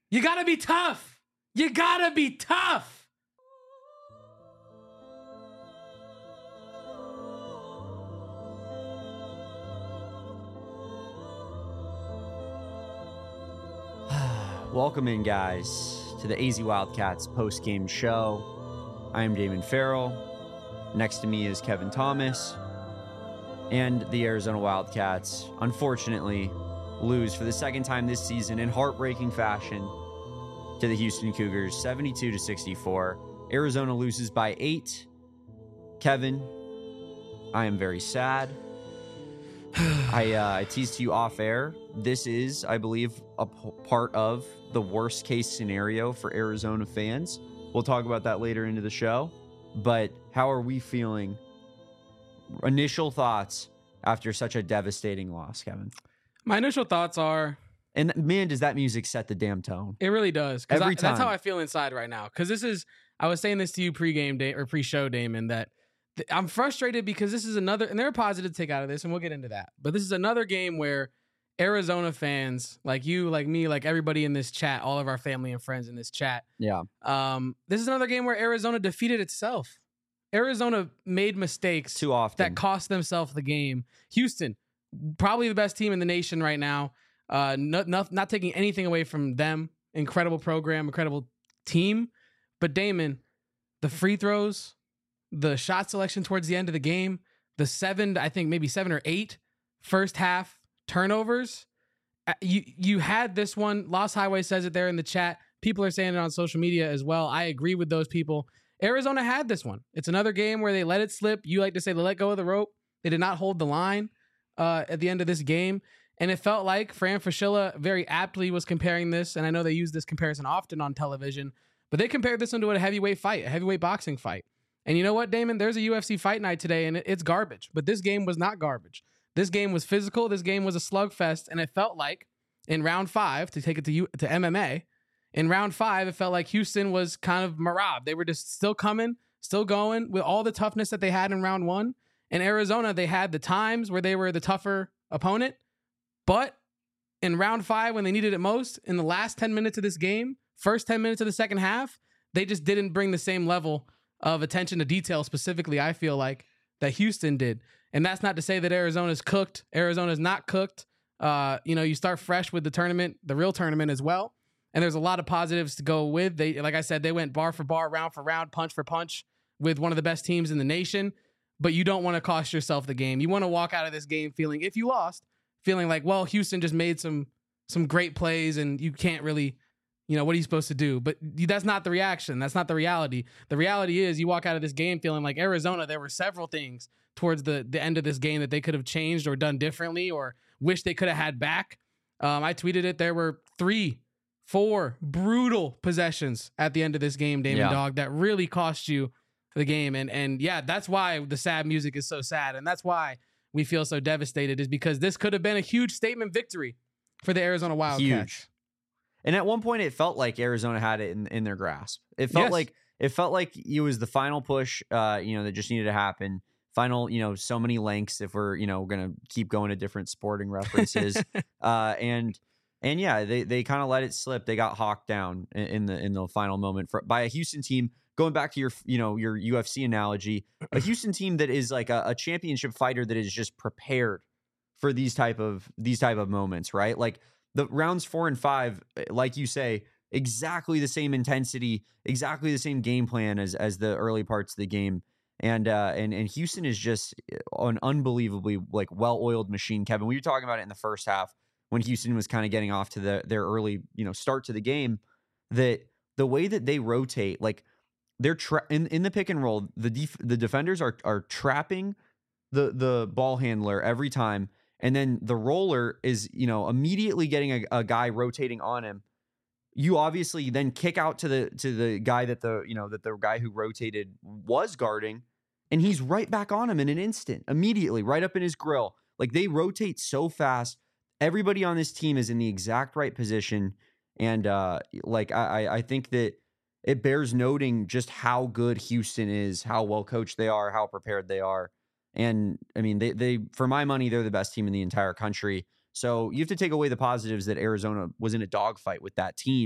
You gotta be tough. You gotta be tough. Welcome in, guys, to the AZ Wildcats post-game show. I am Damon Farrell. Next to me is Kevin Thomas. And the Arizona Wildcats, unfortunately, lose for the second time this season in heartbreaking fashion to the Houston Cougars, 72-64. Arizona loses by 8. Kevin, I am very sad. I teased to you off air. This is, I believe, a part of the worst case scenario for Arizona fans. We'll talk about that later into the show. But how are we feeling? Initial thoughts after such a devastating loss, Kevin? My initial thoughts are... And man, does that music set the damn tone. It really does. Every time. That's how I feel inside right now. Because this is... I was saying this to you pregame day or pre-show, Damon, that I'm frustrated because this is another... And there are positives to take out of this, and we'll get into that. But this is another game where Arizona fans, like you, like me, like everybody in this chat, all of our family and friends in this chat. Yeah. This is another game where Arizona defeated itself. Arizona made mistakes Too often that cost themselves the game. Houston, probably the best team in the nation right now. Not taking anything away from them. Incredible program, incredible team. But Damon, the free throws, the shot selection towards the end of the game, the 7 or 8 first half turnovers. You had this one. Lost Highway says it there in the chat. People are saying it on social media as well. I agree with those people. Arizona had this one. It's another game where they let it slip. You like to say they let go of the rope. They did not hold the line at the end of this game. And it felt like Fran Fraschilla very aptly was comparing this, and I know they use this comparison often on television, but they compared this into a heavyweight fight, a heavyweight boxing fight. And you know what, Damon? There's a UFC fight night today, and it's garbage. But this game was not garbage. This game was physical. This game was a slugfest, and it felt like in round 5, to take it to MMA, in round 5, it felt like Houston was kind of Marab. They were just still coming, still going with all the toughness that they had in round 1. In Arizona, they had the times where they were the tougher opponent. But in round 5, when they needed it most, in the last 10 minutes of this game, first 10 minutes of the second half, they just didn't bring the same level of attention to detail specifically, I feel like, that Houston did. And that's not to say that Arizona's cooked. Arizona's not cooked. You start fresh with the tournament, the real tournament as well. And there's a lot of positives to go with. They, like I said, they went bar for bar, round for round, punch for punch with one of the best teams in the nation. But you don't want to cost yourself the game. You want to walk out of this game feeling, if you lost, feeling like, well, Houston just made some great plays and you can't really, what are you supposed to do? But that's not the reaction. That's not the reality. The reality is you walk out of this game feeling like Arizona, there were several things towards the end of this game that they could have changed or done differently or wish they could have had back. I tweeted it. There were 3-4 brutal possessions at the end of this game, Damon Dog, that really cost you the game. And yeah, that's why the sad music is so sad. And that's why we feel so devastated, is because this could have been a huge statement victory for the Arizona Wildcats. Huge. And at one point, it felt like Arizona had it in their grasp. It felt like it was the final push, that just needed to happen. Final, so many lengths if we're, going to keep going to different sporting references. And yeah, they kind of let it slip. They got hawked down in the final moment by a Houston team. Going back to your UFC analogy, a Houston team that is like a championship fighter that is just prepared for these type of moments, right? Like the rounds 4 and 5, like you say, exactly the same intensity, exactly the same game plan as the early parts of the game. And Houston is just an unbelievably like well-oiled machine, Kevin. We were talking about it in the first half when Houston was kind of getting off to their early, start to the game, that the way that they rotate, like they're in the pick and roll, the defenders are trapping the ball handler every time, and then the roller is immediately getting a guy rotating on him. You obviously then kick out to the guy that the guy who rotated was guarding, and he's right back on him in an instant, immediately right up in his grill. Like they rotate so fast. Everybody on this team is in the exact right position, and I think that it bears noting just how good Houston is, how well coached they are, how prepared they are. And I mean, they for my money, they're the best team in the entire country. So you have to take away the positives that Arizona was in a dogfight with that team.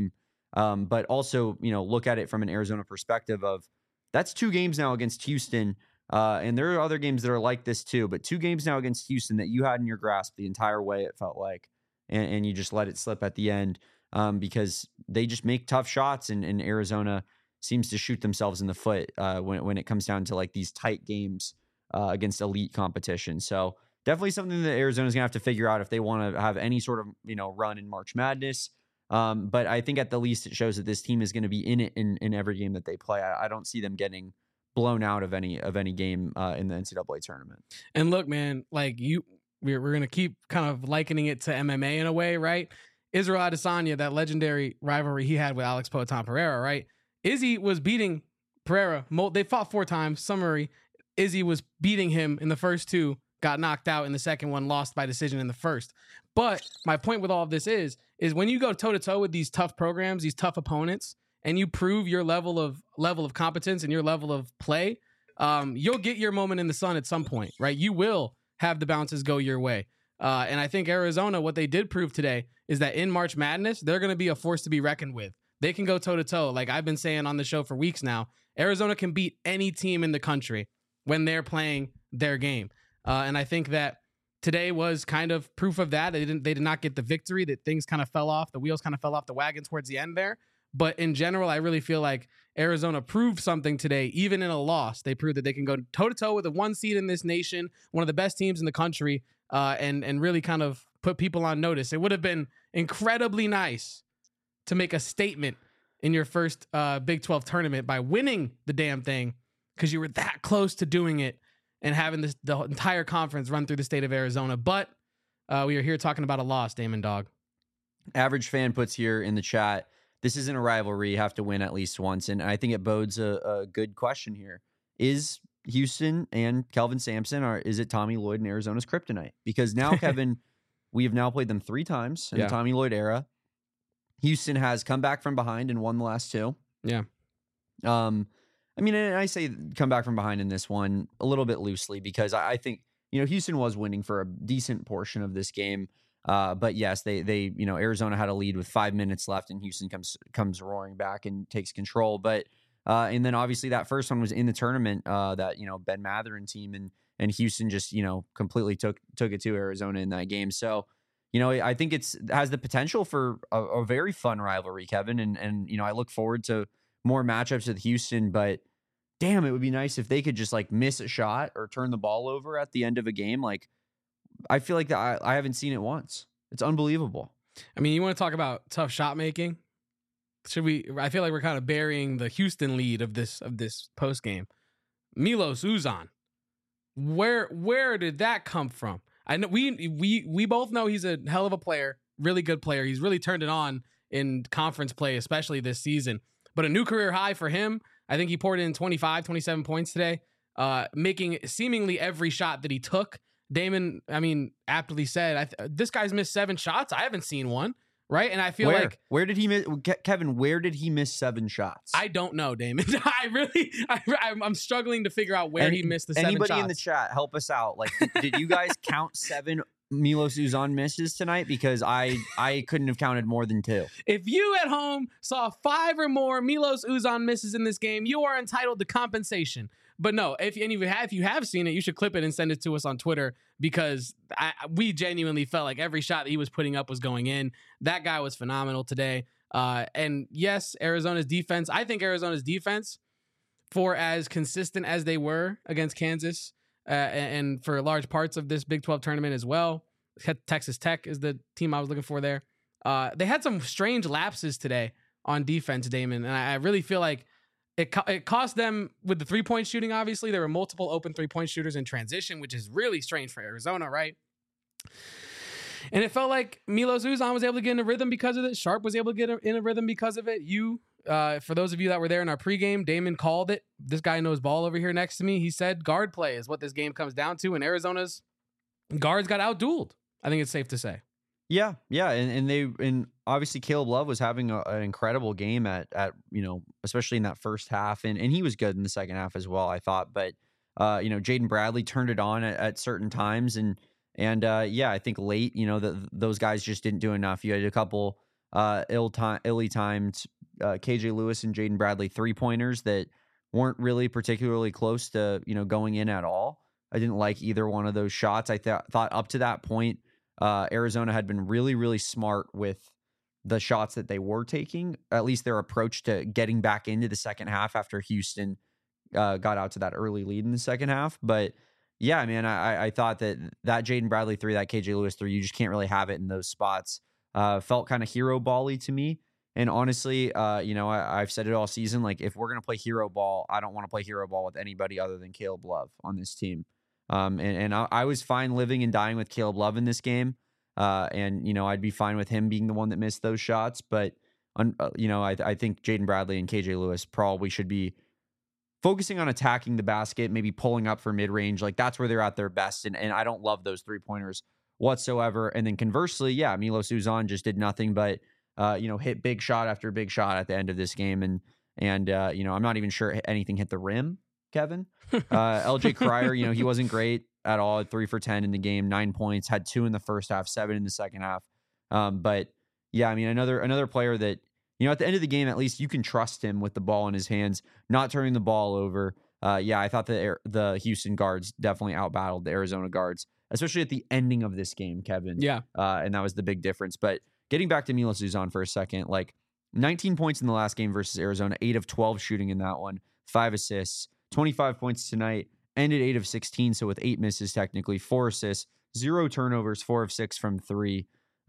But also, look at it from an Arizona perspective of that's 2 games now against Houston. And there are other games that are like this too, but 2 games now against Houston that you had in your grasp the entire way, it felt like, and you just let it slip at the end because they just make tough shots, and Arizona seems to shoot themselves in the foot when it comes down to like these tight games against elite competition. So definitely something that Arizona's gonna have to figure out if they want to have any sort of run in March Madness. But I think at the least it shows that this team is going to be in it in every game that they play. I don't see them getting blown out of any game in the NCAA tournament. And look, man, like we're going to keep kind of likening it to MMA in a way, right? Israel Adesanya, that legendary rivalry he had with Alex Poatan Pereira, right? Izzy was beating Pereira. They fought 4 times. Summary, Izzy was beating him in the first 2, got knocked out in the second one, lost by decision in the first. But my point with all of this is when you go toe-to-toe with these tough programs, these tough opponents, and you prove your level of competence and your level of play, you'll get your moment in the sun at some point, right? You will have the bounces go your way. And I think Arizona, what they did prove today is that in March Madness, they're going to be a force to be reckoned with. They can go toe-to-toe. Like I've been saying on the show for weeks now, Arizona can beat any team in the country when they're playing their game. And I think that today was kind of proof of that. They did not get the victory, that things kind of fell off. The wheels kind of fell off the wagon towards the end there. But in general, I really feel like Arizona proved something today, even in a loss. They proved that they can go toe-to-toe with the 1 seed in this nation, one of the best teams in the country, and really kind of put people on notice. It would have been incredibly nice to make a statement in your first Big 12 tournament by winning the damn thing, because you were that close to doing it and having the entire conference run through the state of Arizona. But we are here talking about a loss, Damon Dog. Average Fan puts here in the chat, this isn't a rivalry. You have to win at least once. And I think it bodes a good question here. Is Houston and Kelvin Sampson, or is it Tommy Lloyd and Arizona's kryptonite? Because now, Kevin, we have now played them 3 times in the Tommy Lloyd era. Houston has come back from behind and won the last 2. Yeah. I mean, and I say come back from behind in this one a little bit loosely because I think, Houston was winning for a decent portion of this game. But yes, they Arizona had a lead with 5 minutes left, and Houston comes roaring back and takes control. But and then obviously that first one was in the tournament that Ben Matherin team, and Houston just completely took it to Arizona in that game. So I think it has the potential for a very fun rivalry, Kevin, and I look forward to more matchups with Houston. But damn, it would be nice if they could just like miss a shot or turn the ball over at the end of a game. Like, I feel like that I haven't seen it once. It's unbelievable. I mean, you want to talk about tough shot making? Should we? I feel like we're kind of burying the Houston lead of this post game. Milos Uzan, where did that come from? I know we both know he's a hell of a player, really good player. He's really turned it on in conference play, especially this season. But a new career high for him. I think he poured in 25, 27 points today, making seemingly every shot that he took. Damon, I mean, aptly said, this guy's missed 7 shots. I haven't seen one, right? And I feel like... Where did he miss... Kevin, where did he miss 7 shots? I don't know, Damon. I'm struggling to figure out where he missed the 7 shots. Anybody in the chat, help us out. Like, did you guys count 7 Milos Uzan misses tonight? Because I couldn't have counted more than 2. If you at home saw 5 or more Milos Uzan misses in this game, you are entitled to compensation. But no, if you have seen it, you should clip it and send it to us on Twitter, because we genuinely felt like every shot that he was putting up was going in. That guy was phenomenal today. And yes, Arizona's defense, I think Arizona's defense, for as consistent as they were against Kansas, and for large parts of this Big 12 tournament as well, Texas Tech is the team I was looking for there. They had some strange lapses today on defense, Damon, and I really feel like it cost them with the 3-point shooting. Obviously, there were multiple open 3-point shooters in transition, which is really strange for Arizona, right? And it felt like Milos Uzan was able to get in a rhythm because of it. Sharp was able to get in a rhythm because of it. For those of you that were there in our pregame, Damon called it. This guy knows ball over here next to me. He said guard play is what this game comes down to, and Arizona's guards got outdueled. I think it's safe to say. Yeah, and obviously Caleb Love was having an incredible game at especially in that first half, and he was good in the second half as well, I thought. But Jaden Bradley turned it on at certain times, and I think late, those guys just didn't do enough. You had a couple illy timed KJ Lewis and Jaden Bradley 3-pointers that weren't really particularly close to, going in at all. I didn't like either one of those shots. I thought up to that point, Arizona had been really, really smart with the shots that they were taking, at least their approach to getting back into the second half after Houston got out to that early lead in the second half. But yeah, man, I thought that Jaden Bradley 3, that KJ Lewis 3, you just can't really have it in those spots. Felt kind of hero ball-y to me. And honestly, I've said it all season, like if we're going to play hero ball, I don't want to play hero ball with anybody other than Caleb Love on this team. And I was fine living and dying with Caleb Love in this game. And I'd be fine with him being the one that missed those shots. But, I think Jaden Bradley and KJ Lewis probably should be focusing on attacking the basket, maybe pulling up for mid-range. Like that's where they're at their best. And I don't love those 3-pointers whatsoever. And then conversely, yeah, Milos Uzan just did nothing but, hit big shot after big shot at the end of this game. And I'm not even sure anything hit the rim, Kevin. LJ Cryer, he wasn't great at all. 3 for 10 in the game, 9 points, had 2 in the first half, 7 in the second half. But yeah, I mean, another player that, at the end of the game, at least you can trust him with the ball in his hands, not turning the ball over. I thought that the Houston guards definitely outbattled the Arizona guards, especially at the ending of this game, Kevin. Yeah. And that was the big difference. But getting back to Milos Uzan for a second, like 19 points in the last game versus Arizona, 8 of 12 shooting in that one, 5 assists, 25 points tonight, ended 8 of 16, so with 8 misses technically, 4 assists, 0 turnovers, 4 of 6 from 3.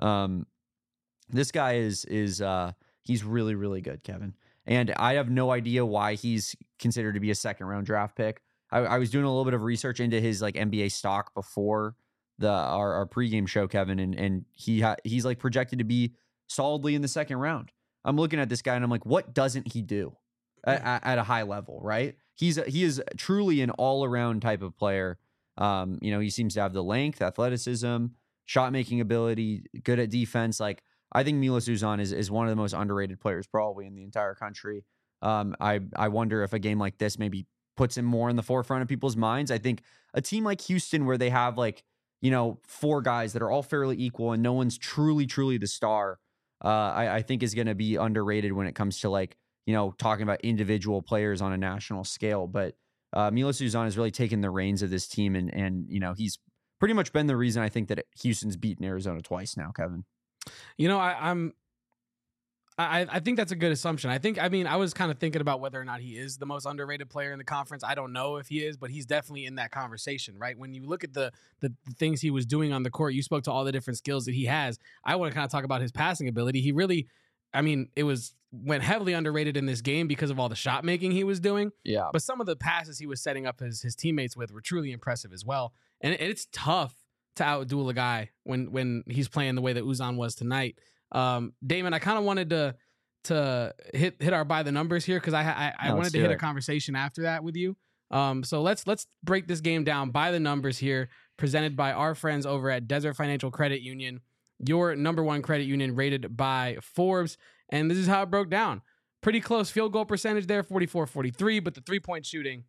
This guy is he's really, really good, Kevin. And I have no idea why he's considered to be a second-round draft pick. I was doing a little bit of research into his like NBA stock before our pregame show, Kevin, and he's like projected to be solidly in the second round. I'm looking at this guy and I'm like, what doesn't he do at a high level, right? He is truly an all-around type of player. He seems to have the length, athleticism, shot-making ability, good at defense. Like, I think Milos Uzan is one of the most underrated players probably in the entire country. I wonder if a game like this maybe puts him more in the forefront of people's minds. I think a team like Houston, where they have like, 4 guys that are all fairly equal and no one's truly, truly the star, I think is going to be underrated when it comes to like, talking about individual players on a national scale. But Milos Uzan has really taken the reins of this team, and he's pretty much been the reason I think that Houston's beaten Arizona twice now, Kevin. I think that's a good assumption. I was kind of thinking about whether or not he is the most underrated player in the conference. I don't know if he is, but he's definitely in that conversation, right? When you look at the things he was doing on the court, you spoke to all the different skills that he has. I want to kind of talk about his passing ability. He really, went heavily underrated in this game because of all the shot making he was doing. Yeah. But some of the passes he was setting up his teammates with were truly impressive as well. And it's tough to outduel a guy when he's playing the way that Uzan was tonight. Damon, I kind of wanted to hit our by the numbers here because I wanted to hit a conversation after that with you. So let's break this game down by the numbers here, presented by our friends over at Desert Financial Credit Union, your number 1 credit union rated by Forbes. And this is how it broke down. Pretty close field goal percentage there, 44-43, but the 3-point shooting,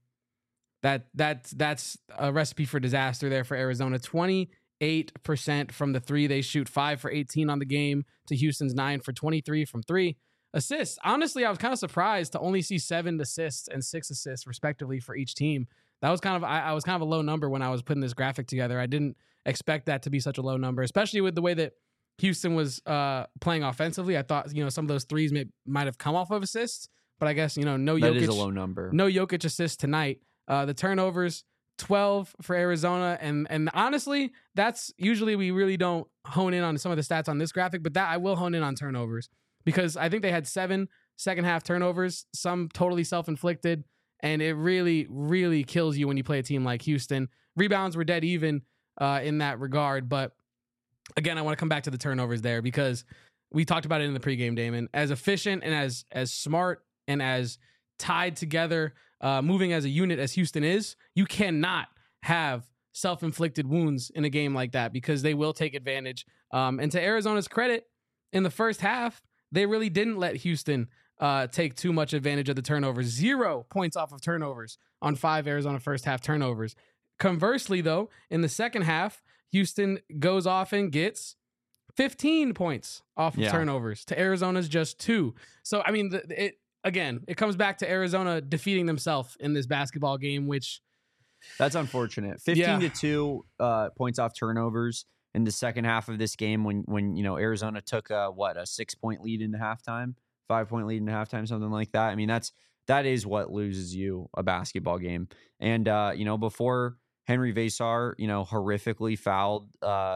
that's a recipe for disaster there for Arizona. 28% from the 3. They shoot 5 for 18 on the game to Houston's 9 for 23 from 3. Assists. Honestly, I was kind of surprised to only see 7 assists and 6 assists respectively for each team. That was I was kind of a low number when I was putting this graphic together. I didn't expect that to be such a low number, especially with the way that Houston was playing offensively. I thought, some of those threes might have come off of assists, but I guess, no Jokic. That is a low number. No Jokic assists tonight. The turnovers, 12 for Arizona. And honestly, that's usually we really don't hone in on some of the stats on this graphic, but that I will hone in on turnovers because I think they had 7 second half turnovers, some totally self-inflicted. And it really, really kills you when you play a team like Houston. Rebounds were dead even in that regard. But again, I want to come back to the turnovers there because we talked about it in the pregame, Damon. As efficient and as smart and as tied together, moving as a unit as Houston is, you cannot have self-inflicted wounds in a game like that because they will take advantage. And to Arizona's credit, in the first half, they really didn't let Houston take too much advantage of the turnovers. 0 points off of turnovers on 5 Arizona first half turnovers. Conversely, though, in the second half, Houston goes off and gets 15 points off of Yeah. turnovers to Arizona's just 2. So, I mean, it comes back to Arizona defeating themselves in this basketball game, which... That's unfortunate. 15-2 points off turnovers in the second half of this game when Arizona took a 6-point lead into halftime, 5-point lead into halftime, something like that. I mean, that is what loses you a basketball game. And before Henry Vesar, horrifically fouled,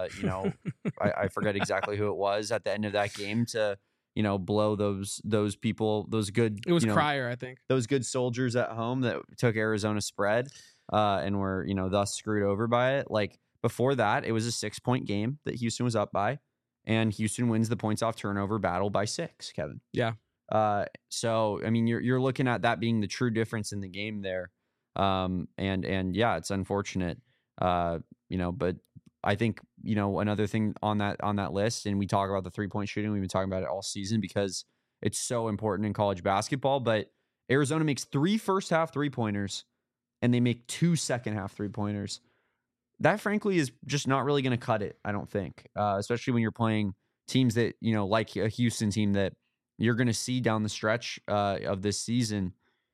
I forget exactly who it was at the end of that game to, blow those people, those good. It was Cryer, I think. Those good soldiers at home that took Arizona spread and were, thus screwed over by it. Like before that, it was a 6-point game that Houston was up by, and Houston wins the points off turnover battle by 6, Kevin. Yeah. So, I mean, you're looking at that being the true difference in the game there. And yeah, it's unfortunate, but I think, another thing on that list, and we talk about the 3-point shooting, we've been talking about it all season because it's so important in college basketball, but Arizona makes 3 first half 3-pointers and they make 2 second half 3-pointers. That frankly is just not really going to cut it, I don't think, especially when you're playing teams that, like a Houston team that you're going to see down the stretch of this season.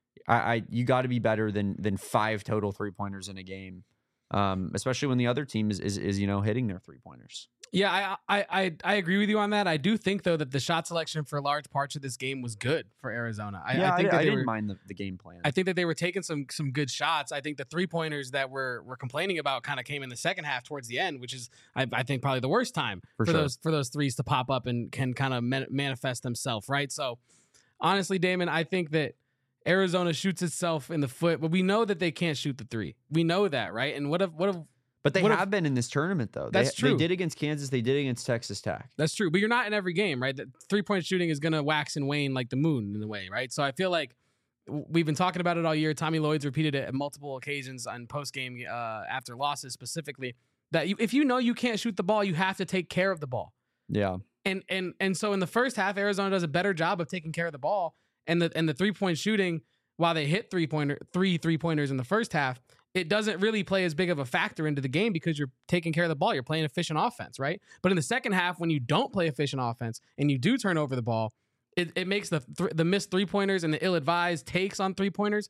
You got to be better than 5 total 3-pointers in a game, especially when the other team is hitting their 3-pointers. Yeah, I agree with you on that. I do think though that the shot selection for large parts of this game was good for Arizona. I didn't mind the game plan. I think that they were taking some good shots. I think the 3-pointers that we're complaining about kind of came in the second half towards the end, which is I think probably the worst time for those threes to pop up and can kind of manifest themselves, right? So honestly, Damon, I think that Arizona shoots itself in the foot, but we know that they can't shoot the 3. We know that, right? And But they have been in this tournament, though. That's true. They did against Kansas. They did against Texas Tech. That's true. But you're not in every game, right? The 3-point shooting is going to wax and wane like the moon in a way, right? So I feel like we've been talking about it all year. Tommy Lloyd's repeated it at multiple occasions on post-game after losses specifically, that if you can't shoot the ball, you have to take care of the ball. Yeah. And so in the first half, Arizona does a better job of taking care of the ball. And the 3-point shooting, while they hit 3 3-pointers in the first half, it doesn't really play as big of a factor into the game because you're taking care of the ball. You're playing efficient offense, right? But in the second half, when you don't play efficient offense and you do turn over the ball, it makes the missed 3-pointers and the ill-advised takes on 3-pointers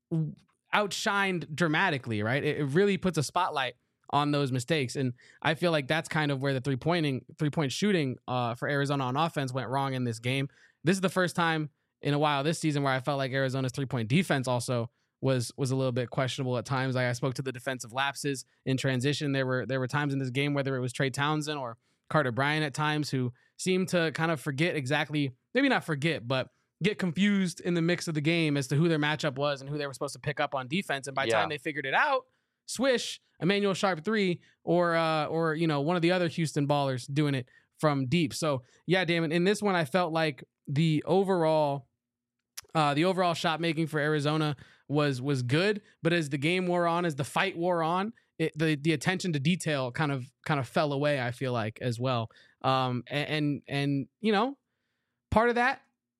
outshined dramatically, right? It really puts a spotlight on those mistakes. And I feel like that's kind of where the 3-point shooting for Arizona on offense went wrong in this game. This is the first time in a while this season where I felt like Arizona's 3-point defense also was a little bit questionable at times. Like I spoke to the defensive lapses in transition. There were times in this game, whether it was Trey Townsend or Carter Bryant at times, who seemed to kind of forget exactly, maybe not forget, but get confused in the mix of the game as to who their matchup was and who they were supposed to pick up on defense. And by the time they figured it out, swish, Emmanuel Sharp 3 or one of the other Houston ballers doing it from deep. So yeah, Damon, in this one, I felt like the overall shot making for Arizona was good, but as the game wore on, as the fight wore on, the attention to detail kind of fell away, I feel like, as well. And part of that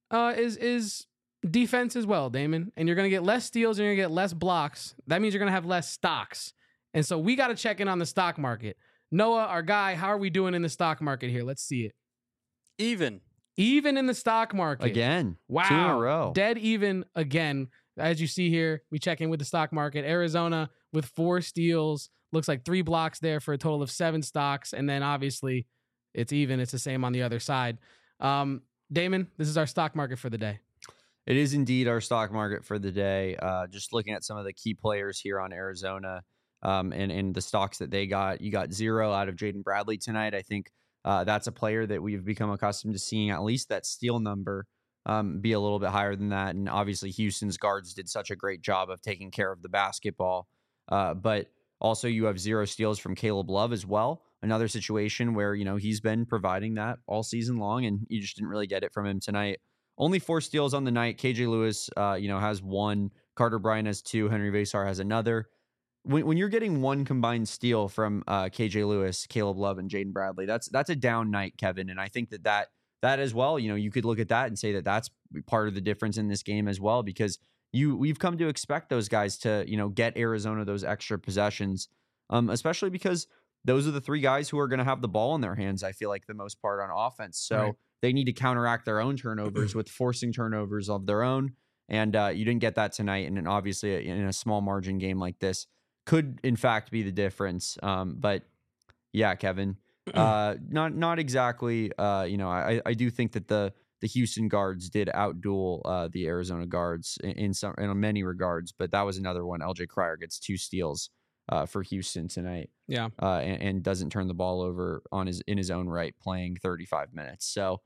is defense as well, Damon. And you're going to get less steals and you're going to get less blocks. That means you're going to have less stocks. And so we got to check in on the stock market. Noah, our guy, how are we doing in the stock market here? Let's see it. Even in the stock market. Again. Wow. 2 in a row. Dead even again. As you see here, we check in with the stock market. Arizona with 4 steals. Looks like 3 blocks there for a total of 7 stocks. And then obviously it's even. It's the same on the other side. Damon, this is our stock market for the day. It is indeed our stock market for the day. Just looking at some of the key players here on Arizona and the stocks that they got. You got 0 out of Jaden Bradley tonight. I think that's a player that we've become accustomed to seeing at least that steal number be a little bit higher than that. And obviously Houston's guards did such a great job of taking care of the basketball. But also you have 0 steals from Caleb Love as well. Another situation where, he's been providing that all season long and you just didn't really get it from him tonight. Only 4 steals on the night. KJ Lewis, has 1. Carter Bryant has 2. Henry Vesar has another. When you're getting 1 combined steal from KJ Lewis, Caleb Love, and Jaden Bradley, that's a down night, Kevin. And I think that as well, you could look at that and say that that's part of the difference in this game as well, because we've come to expect those guys to, get Arizona those extra possessions, especially because those are the three guys who are going to have the ball in their hands, I feel like, the most part on offense. So they need to counteract their own turnovers with forcing turnovers of their own. And you didn't get that tonight. And then obviously in a small margin game like this could, in fact, be the difference. But yeah, Kevin, not exactly. I do think that the Houston guards did outduel the Arizona guards in many regards. But that was another one. LJ Cryer gets 2 steals for Houston tonight. Yeah. And doesn't turn the ball over in his own right, playing 35 minutes. So,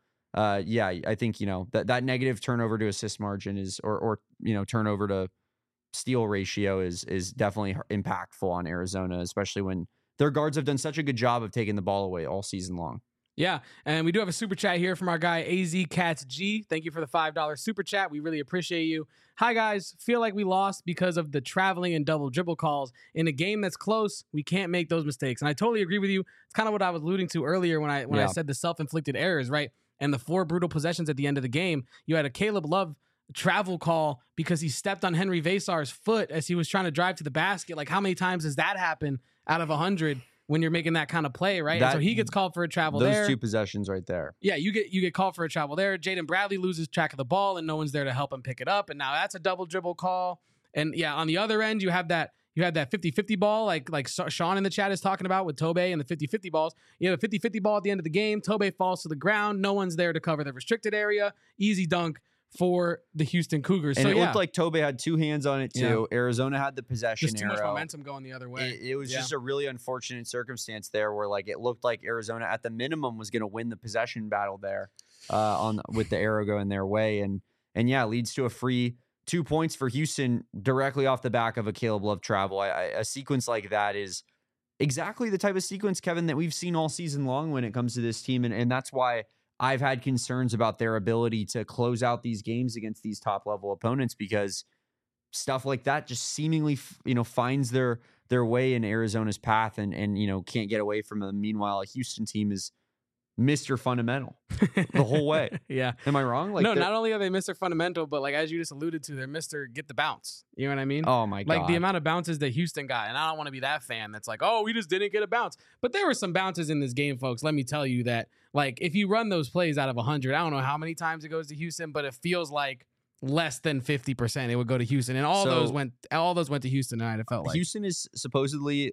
I think, that negative turnover to assist margin or turnover to steal ratio is definitely impactful on Arizona, especially when their guards have done such a good job of taking the ball away all season long. Yeah, and we do have a super chat here from our guy AZ Cats G. Thank you for the $5 super chat. We really appreciate you. Hi guys, feel like we lost because of the traveling and double dribble calls. In a game that's close, we can't make those mistakes. And I totally agree with you. It's kind of what I was alluding to earlier when I said the self-inflicted errors, right? And the 4 brutal possessions at the end of the game. You had a Caleb Love travel call because he stepped on Henry Vesar's foot as he was trying to drive to the basket. Like, how many times does that happen out of 100 when you're making that kind of play, right? And so he gets called for a travel there. Those 2 possessions right there. Yeah, you get called for a travel there. Jaden Bradley loses track of the ball and no one's there to help him pick it up. And now that's a double dribble call. And yeah, on the other end, you have that 50-50 ball, like Sean in the chat is talking about with Tobey and the 50-50 balls. You have a 50-50 ball at the end of the game. Tobey falls to the ground. No one's there to cover the restricted area. Easy dunk for the Houston Cougars. And it looked like Tobey had 2 hands on it too. Yeah. Arizona had the possession just too much momentum going the other way. It was just a really unfortunate circumstance there where it looked like Arizona at the minimum was going to win the possession battle there with the arrow going their way. And leads to a free 2 points for Houston directly off the back of a Caleb Love travel. A sequence like that is exactly the type of sequence, Kevin, that we've seen all season long when it comes to this team. And that's why I've had concerns about their ability to close out these games against these top level opponents, because stuff like that just seemingly, finds their way in Arizona's path and can't get away from them. Meanwhile, a Houston team is Mr. Fundamental the whole way. Yeah. Am I wrong? No, not only are they Mr. Fundamental, but as you just alluded to, they're Mr. Get the bounce. You know what I mean? Oh my God. The amount of bounces that Houston got. And I don't want to be that fan that's like, oh, we just didn't get a bounce. But there were some bounces in this game, folks. Let me tell you that, if you run those plays out of 100, I don't know how many times it goes to Houston, but it feels like less than 50% it would go to Houston, and all those went to Houston tonight. It felt like Houston is supposedly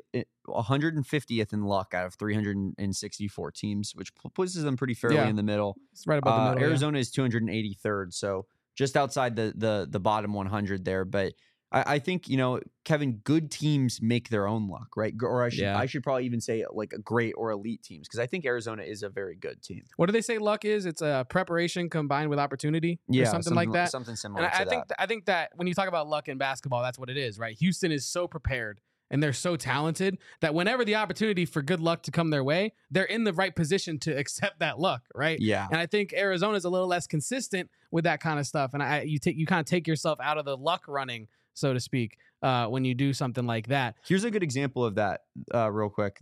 150th in luck out of 364 teams, which places them pretty fairly in the middle. It's right above the middle. Arizona is 283rd, so just outside the bottom 100 there. But I think, Kevin, good teams make their own luck, right? Or I should probably even say great or elite teams, because I think Arizona is a very good team. What do they say luck is? It's a preparation combined with opportunity, or something like that. Something similar. And I think that when you talk about luck in basketball, that's what it is, right? Houston is so prepared and they're so talented that whenever the opportunity for good luck to come their way, they're in the right position to accept that luck, right? Yeah. And I think Arizona is a little less consistent with that kind of stuff, and you kind of take yourself out of the luck running, so to speak, when you do something like that. Here's a good example of that, real quick.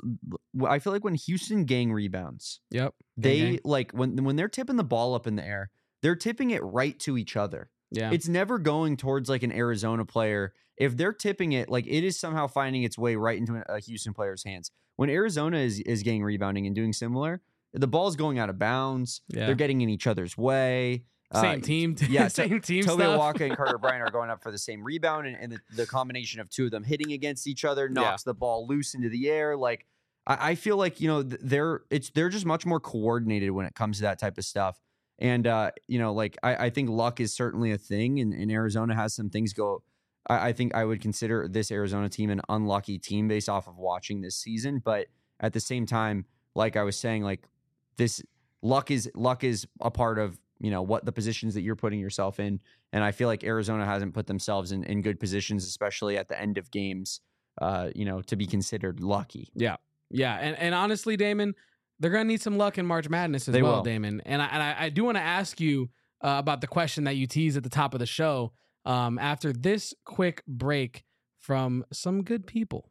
I feel like when Houston gang rebounds, they when they're tipping the ball up in the air, they're tipping it right to each other. Yeah, it's never going towards an Arizona player. If they're tipping it, it is somehow finding its way right into a Houston player's hands. When Arizona is gang rebounding and doing similar, the ball's going out of bounds. Yeah. They're getting in each other's way. Same team. Yeah, same team. Toby Awaka and Carter Bryant are going up for the same rebound, and the combination of two of them hitting against each other knocks the ball loose into the air. I feel like they're just much more coordinated when it comes to that type of stuff. And I think luck is certainly a thing, and Arizona has some things go. I think I would consider this Arizona team an unlucky team based off of watching this season, but at the same time, like I was saying, this luck is a part of what the positions that you're putting yourself in. And I feel like Arizona hasn't put themselves in good positions, especially at the end of games, to be considered lucky. Yeah. Yeah. And honestly, Damon, they're going to need some luck in March Madness as well, Damon. And I do want to ask you about the question that you teased at the top of the show after this quick break from some good people.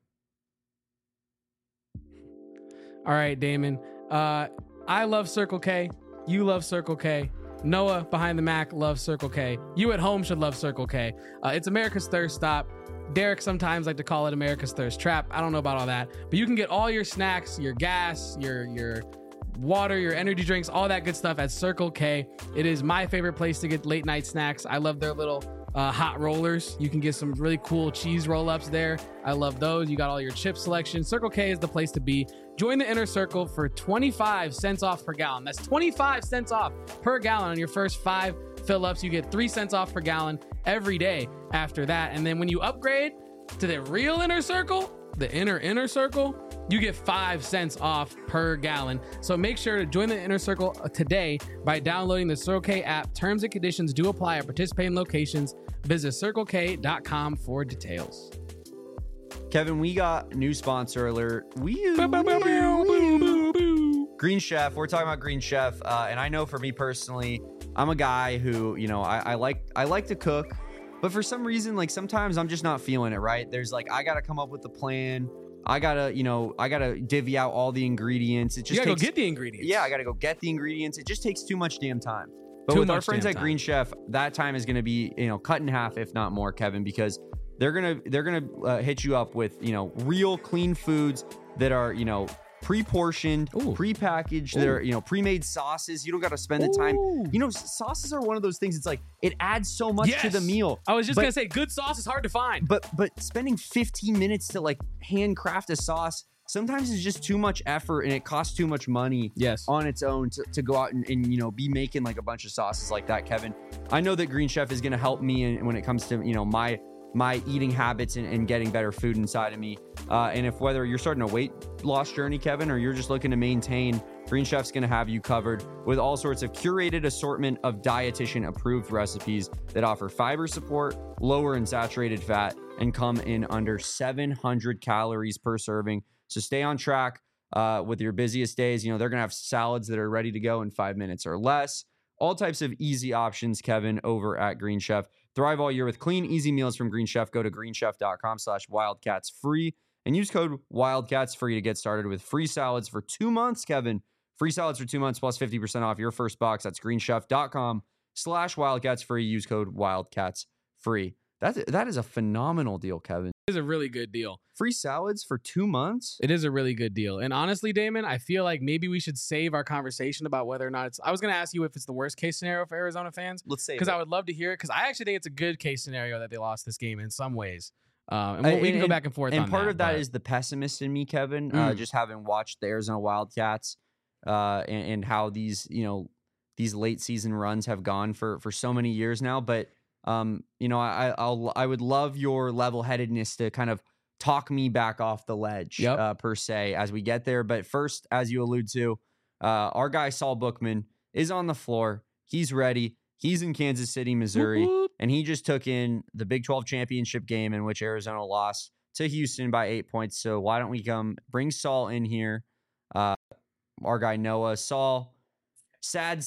All right, Damon. I love Circle K. You love Circle K. Noah behind the Mac loves Circle K. You at home should love Circle K. It's America's thirst stop. Derek sometimes like to call it America's thirst trap. I don't know about all that, but you can get all your snacks, your gas, your water, your energy drinks, all that good stuff at Circle K. It is my favorite place to get late night snacks. I love their little hot rollers. You can get some really cool cheese roll-ups there. I love those. You got all your chip selection. Circle K is the place to be. Join the Inner Circle for 25 cents off per gallon. That's 25 cents off per gallon on your first 5 fill-ups. You get 3 cents off per gallon every day after that. And then when you upgrade to the real Inner Circle, the inner circle, you get 5 cents off per gallon. So make sure to join the Inner Circle today by downloading the Circle K app. Terms and conditions do apply at participating locations. Visit circlek.com for details. Kevin, we got a new sponsor alert. Green Chef. We're talking about Green Chef, and I know for me personally, I'm a guy who, you know, I like to cook, but for some reason, like sometimes I'm just not feeling it. Right? There's like I gotta come up with the plan. I gotta divvy out all the ingredients. It just you gotta takes, go get the ingredients. Yeah, I gotta go get the ingredients. It just takes too much damn time. But with our friends at Green Chef, that time is gonna be, you know, cut in half, if not more, Kevin, because they're gonna hit you up with, you know, real clean foods that are, you know, pre-portioned, pre-packaged. They're, you know, pre-made sauces. You don't got to spend the time. You know, sauces are one of those things. It's like it adds so much to the meal. I was just gonna say, good sauce is hard to find. But spending 15 minutes to like handcraft a sauce sometimes it's just too much effort and it costs too much money on its own to go out and, you know, be making like a bunch of sauces like that, Kevin. I know that Green Chef is going to help me when it comes to, you know, my eating habits and getting better food inside of me. And if whether you're starting a weight loss journey, Kevin, or you're just looking to maintain, Green Chef's going to have you covered with all sorts of curated assortment of dietitian approved recipes that offer fiber support, lower in saturated fat, and come in under 700 calories per serving. So stay on track with your busiest days. You know, they're going to have salads that are ready to go in 5 minutes or less. All types of easy options, Kevin, over at Green Chef. Thrive all year with clean, easy meals from Green Chef. Go to greenchef.com/wildcatsfree and use code WILDCATSFREE to get started with free salads for 2 months, Kevin. Free salads for 2 months plus 50% off your first box. That's greenchef.com/wildcatsfree. Use code WILDCATSFREE. That is a phenomenal deal, Kevin. It is a really good deal. Free salads for 2 months? It is a really good deal. And honestly, Damon, I feel like maybe we should save our conversation about whether or not it's... I was going to ask you if it's the worst case scenario for Arizona fans. Let's say because I would love to hear it, because I actually think it's a good case scenario that they lost this game in some ways. And we can go back and forth on that. And part of that is the pessimist in me, Kevin, just having watched the Arizona Wildcats and how these, you know, these late season runs have gone for so many years now. But you know, I would love your level-headedness to kind of talk me back off the ledge, per se, as we get there. But first, as you allude to, our guy Saul Bookman is on the floor. He's ready. He's in Kansas City, Missouri, and he just took in the Big 12 championship game in which Arizona lost to Houston by 8 points. So why don't we bring Saul in here? Our guy Noah. Saul, sad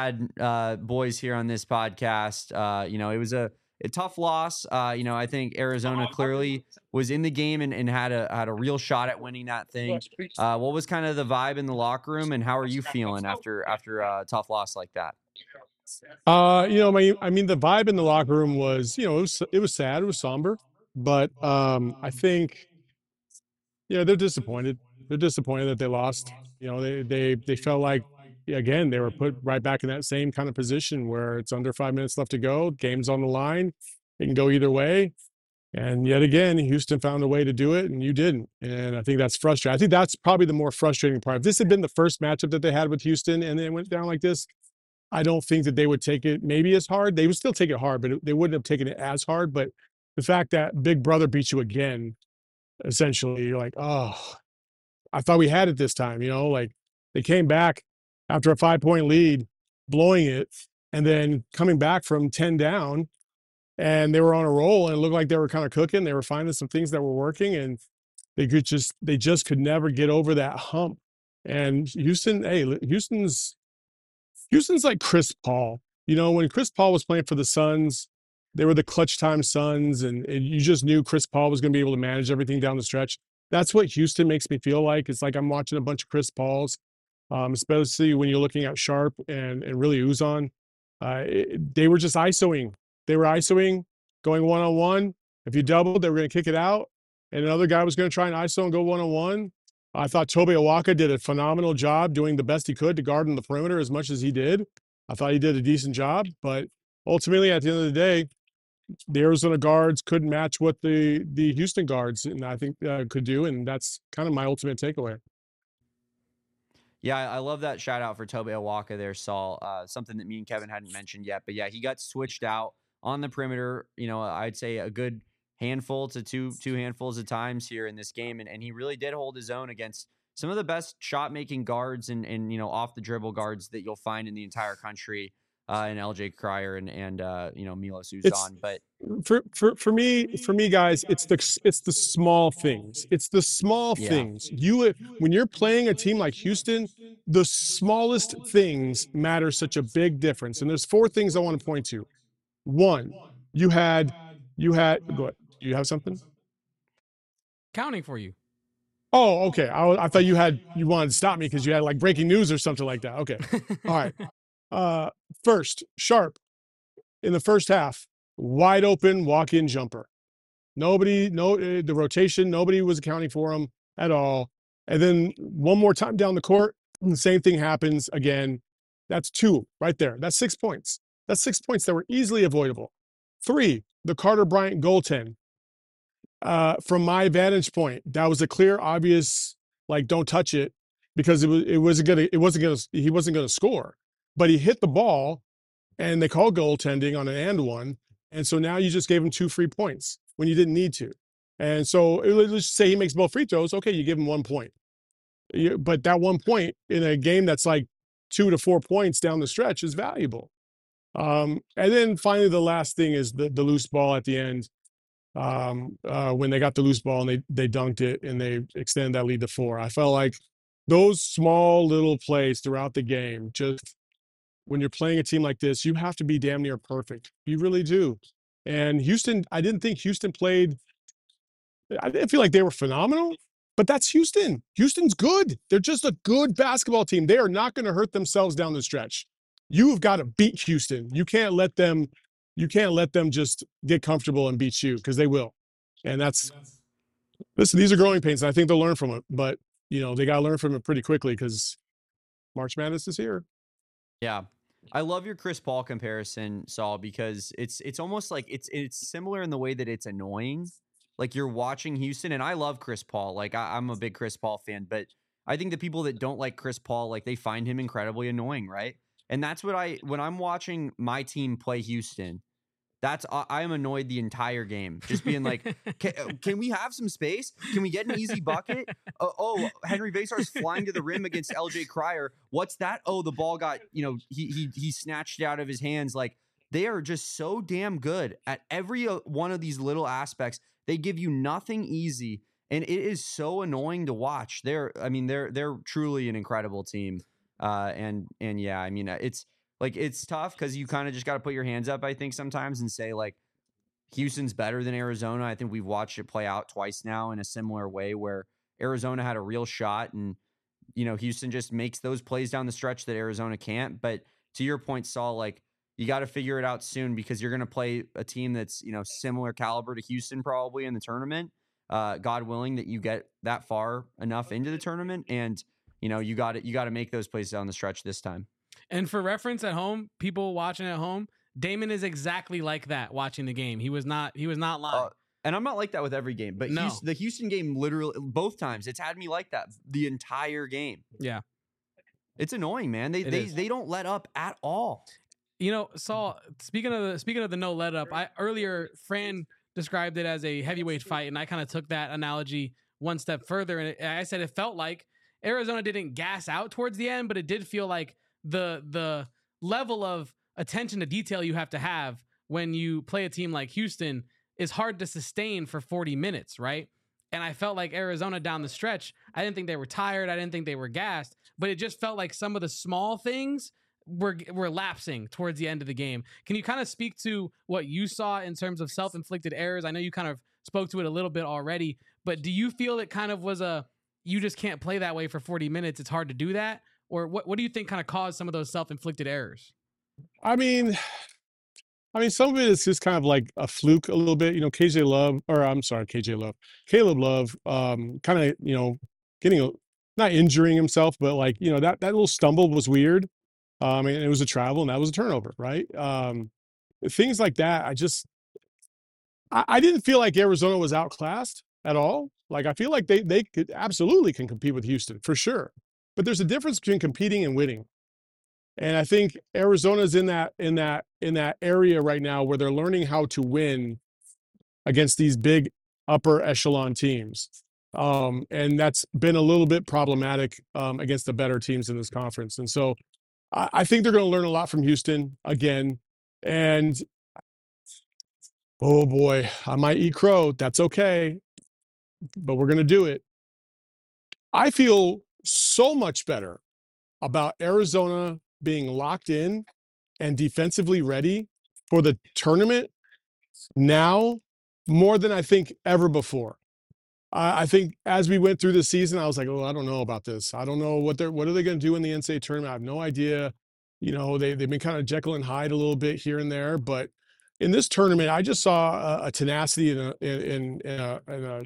boys here on this podcast. You know, it was a tough loss. You know, I think Arizona clearly was in the game and had a real shot at winning that thing. What was kind of the vibe in the locker room, and how are you feeling after a tough loss like that? You know, I mean, the vibe in the locker room was, you know, it was sad, it was somber, but I think, you know, they're disappointed. They're disappointed that they lost. You know, they felt like, again, they were put right back in that same kind of position where it's under 5 minutes left to go. Game's on the line. It can go either way. And yet again, Houston found a way to do it, and you didn't. And I think that's frustrating. I think that's probably the more frustrating part. If this had been the first matchup that they had with Houston and it went down like this, I don't think that they would take it maybe as hard. They would still take it hard, but they wouldn't have taken it as hard. But the fact that Big Brother beat you again, essentially, you're like, oh, I thought we had it this time. You know, like they came back after a 5-point lead, blowing it, and then coming back from 10 down, and they were on a roll, and it looked like they were kind of cooking. They were finding some things that were working, and they just could never get over that hump. And Houston, Houston's like Chris Paul. You know, when Chris Paul was playing for the Suns, they were the clutch time Suns, and you just knew Chris Paul was going to be able to manage everything down the stretch. That's what Houston makes me feel like. It's like I'm watching a bunch of Chris Pauls. Especially when you're looking at Sharp and really Uzan. They were just ISOing. They were ISOing, going one-on-one. If you doubled, they were going to kick it out. And another guy was going to try and ISO and go one-on-one. I thought Tobe Awaka did a phenomenal job doing the best he could to guard in the perimeter as much as he did. I thought he did a decent job. But ultimately, at the end of the day, the Arizona guards couldn't match what the Houston guards, and I think could do. And that's kind of my ultimate takeaway. Yeah, I love that shout out for Tobe Awaka there, Saul. Something that me and Kevin hadn't mentioned yet. But yeah, he got switched out on the perimeter, I'd say a good handful to two handfuls of times here in this game. And he really did hold his own against some of the best shot making guards and off the dribble guards that you'll find in the entire country. And LJ Cryer and Milos Uzan. But for me, guys, it's the small things. It's the small things. When you're playing a team like Houston, the smallest things matter such a big difference. And there's 4 things I want to point to. 1, you had go ahead. Do you have something? Counting for you. Oh, okay. I thought you wanted to stop me because you had like breaking news or something like that. Okay. All right. First, Sharp in the first half, wide open walk-in jumper. The rotation, nobody was accounting for him at all. And then one more time down the court, the same thing happens again. That's 2 right there. That's 6 points. That's 6 points that were easily avoidable. 3, the Carter Bryant goaltend. From my vantage point, that was a clear, obvious, like, don't touch it, because he wasn't gonna score. But he hit the ball, and they called goaltending on an and one, and so now you just gave him 2 free points when you didn't need to. And so let's just say he makes both free throws. Okay, you give him 1 point. But that 1 point in a game that's like 2 to 4 points down the stretch is valuable. And then finally, the last thing is the loose ball at the end. When they got the loose ball and they dunked it and they extended that lead to 4. I felt like those small little plays throughout the game, just when you're playing a team like this, you have to be damn near perfect. You really do. And Houston, I didn't feel like they were phenomenal, but that's Houston. Houston's good. They're just a good basketball team. They are not going to hurt themselves down the stretch. You've got to beat Houston. You can't let them just get comfortable and beat you, because they will. And listen, these are growing pains, and I think they'll learn from it. But, they got to learn from it pretty quickly, because March Madness is here. Yeah. I love your Chris Paul comparison, Saul, because it's almost like it's similar in the way that it's annoying. Like, you're watching Houston, and I love Chris Paul. Like, I'm a big Chris Paul fan, but I think the people that don't like Chris Paul, like, they find him incredibly annoying, right? And that's when I'm watching my team play Houston, I am annoyed the entire game, just being like, can we have some space? Can we get an easy bucket? Henry Vasar's flying to the rim against LJ Cryer. What's that? Oh, the ball got, he snatched it out of his hands. Like, they are just so damn good at every one of these little aspects. They give you nothing easy, and it is so annoying to watch. They're truly an incredible team. And yeah, I mean, it's tough because you kind of just got to put your hands up, I think, sometimes, and say, like, Houston's better than Arizona. I think we've watched it play out twice now in a similar way, where Arizona had a real shot, and Houston just makes those plays down the stretch that Arizona can't. But to your point, Saul, like, you got to figure it out soon, because you're going to play a team that's similar caliber to Houston probably in the tournament. God willing that you get that far enough into the tournament, and you got to make those plays down the stretch this time. And for reference at home, people watching at home, Damon is exactly like that watching the game. He was not lying. And I'm not like that with every game, but no. The Houston game, literally both times, it's had me like that the entire game. Yeah. It's annoying, man. They don't let up at all. Saul, speaking of the no let up, earlier Fran described it as a heavyweight fight, and I kind of took that analogy one step further, and I said it felt like Arizona didn't gas out towards the end, but it did feel like the level of attention to detail you have to have when you play a team like Houston is hard to sustain for 40 minutes, right? And I felt like Arizona down the stretch, I didn't think they were tired, I didn't think they were gassed, but it just felt like some of the small things were lapsing towards the end of the game. Can you kind of speak to what you saw in terms of self-inflicted errors? I know you kind of spoke to it a little bit already, but do you feel it kind of was you just can't play that way for 40 minutes, it's hard to do that? Or what do you think kind of caused some of those self-inflicted errors? I mean, some of it is just kind of like a fluke a little bit. KJ Love, or I'm sorry, KJ Love, Caleb Love, kind of, getting not injuring himself, but like, that little stumble was weird. And it was a travel, and that was a turnover, right? Things like that. I didn't feel like Arizona was outclassed at all. Like, I feel like they could absolutely can compete with Houston for sure, but there's a difference between competing and winning. And I think Arizona's in that area right now where they're learning how to win against these big upper echelon teams. And that's been a little bit problematic against the better teams in this conference. And so I think they're going to learn a lot from Houston again. And oh boy, I might eat crow. That's okay, but we're going to do it. I feel so much better about Arizona being locked in and defensively ready for the tournament now more than I think ever before. I think as we went through the season, I was like, oh, I don't know about this. I don't know what are they going to do in the NCAA tournament. I have no idea. They've been kind of Jekyll and Hyde a little bit here and there, but in this tournament, I just saw a tenacity and a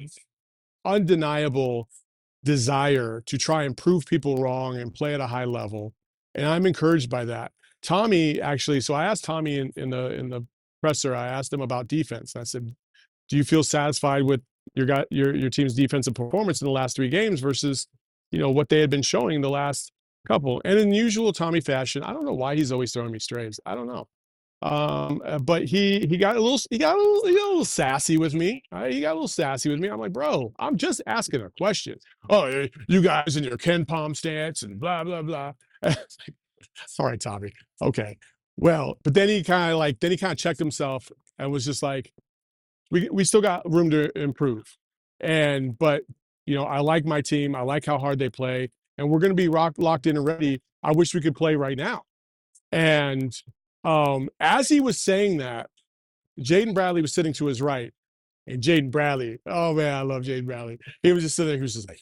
undeniable desire to try and prove people wrong and play at a high level. And I'm encouraged by that. Tommy, actually, so I asked Tommy in the presser, I asked him about defense. I said, do you feel satisfied with your team's defensive performance in the last 3 games versus, what they had been showing the last couple? And in usual Tommy fashion, I don't know why he's always throwing me strays. I don't know. But he got a little sassy with me. He got a little sassy with me. I'm like, bro, I'm just asking a question. Oh, you guys in your Ken Palm stance and blah blah blah. All right, Tommy. Okay. Well, but then he kind of checked himself and was just like, we still got room to improve. But I like my team. I like how hard they play, and we're going to be locked in and ready. I wish we could play right now. And as he was saying that, Jaden Bradley was sitting to his right, and Jaden Bradley, oh man, I love Jaden Bradley. He was just sitting there. He was just like,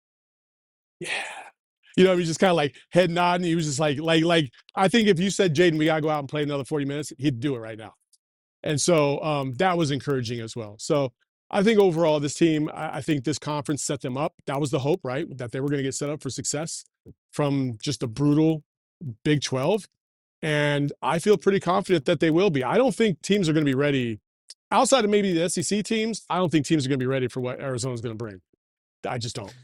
yeah. He was just kind of like head nodding. He was just like, I think if you said, Jaden, we got to go out and play another 40 minutes, he'd do it right now. And so that was encouraging as well. So I think overall this team, I think this conference set them up. That was the hope, right? That they were going to get set up for success from just a brutal Big 12. And I feel pretty confident that they will be. I don't think teams are going to be ready outside of maybe the SEC teams. I don't think teams are going to be ready for what Arizona's going to bring. I just don't.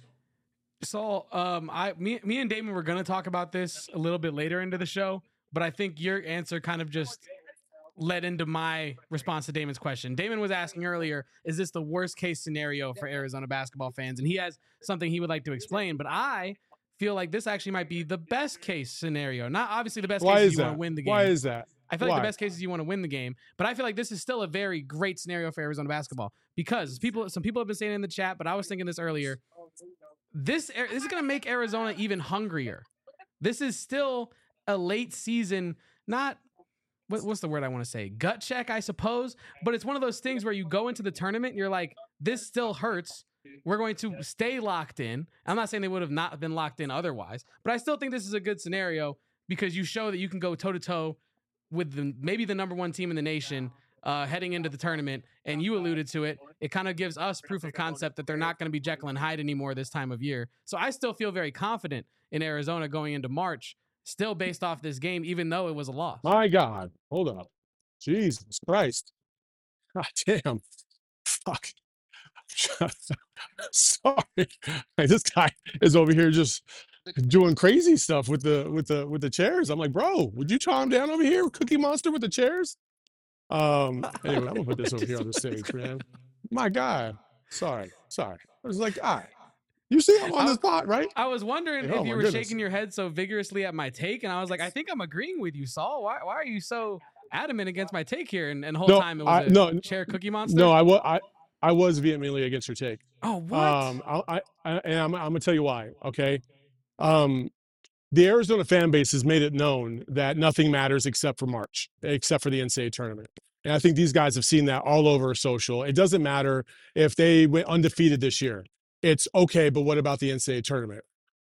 So, me and Damon were going to talk about this a little bit later into the show, but I think your answer kind of just led into my response to Damon's question. Damon was asking earlier, is this the worst case scenario for Arizona basketball fans? And he has something he would like to explain, but I feel like this actually might be the best case scenario. Not obviously the best case is you want to win the game. Why is that? I feel like the best case is you want to win the game, but I feel like this is still a very great scenario for Arizona basketball because some people have been saying it in the chat, but I was thinking this earlier. This is going to make Arizona even hungrier. This is still a late season, not what's the word I want to say? Gut check, I suppose. But it's one of those things where you go into the tournament and you're like, this still hurts. We're going to stay locked in. I'm not saying they would have not been locked in otherwise, but I still think this is a good scenario because you show that you can go toe to toe with maybe the number 1 team in the nation heading into the tournament. And you alluded to it. It kind of gives us proof of concept that they're not going to be Jekyll and Hyde anymore this time of year. So I still feel very confident in Arizona going into March, still based off this game, even though it was a loss. My God. Hold up. Jesus Christ. God damn. Fuck. Sorry. This guy is over here just doing crazy stuff with the chairs. I'm like, bro, would you calm down over here, Cookie Monster, with the chairs? Anyway, I'm gonna put this over here on the stage, man. My God. Sorry. I was like, all right. You see I'm on the spot, right? I was wondering if you were shaking your head so vigorously at my take, and I was like, I think I'm agreeing with you, Saul. Why are you so adamant against my take here? And the whole time it was chair Cookie Monster? No, I was vehemently against your take. Oh, what? I'm gonna tell you why, okay? The Arizona fan base has made it known that nothing matters except for March, except for the NCAA tournament. And I think these guys have seen that all over social. It doesn't matter if they went undefeated this year. It's okay, but what about the NCAA tournament?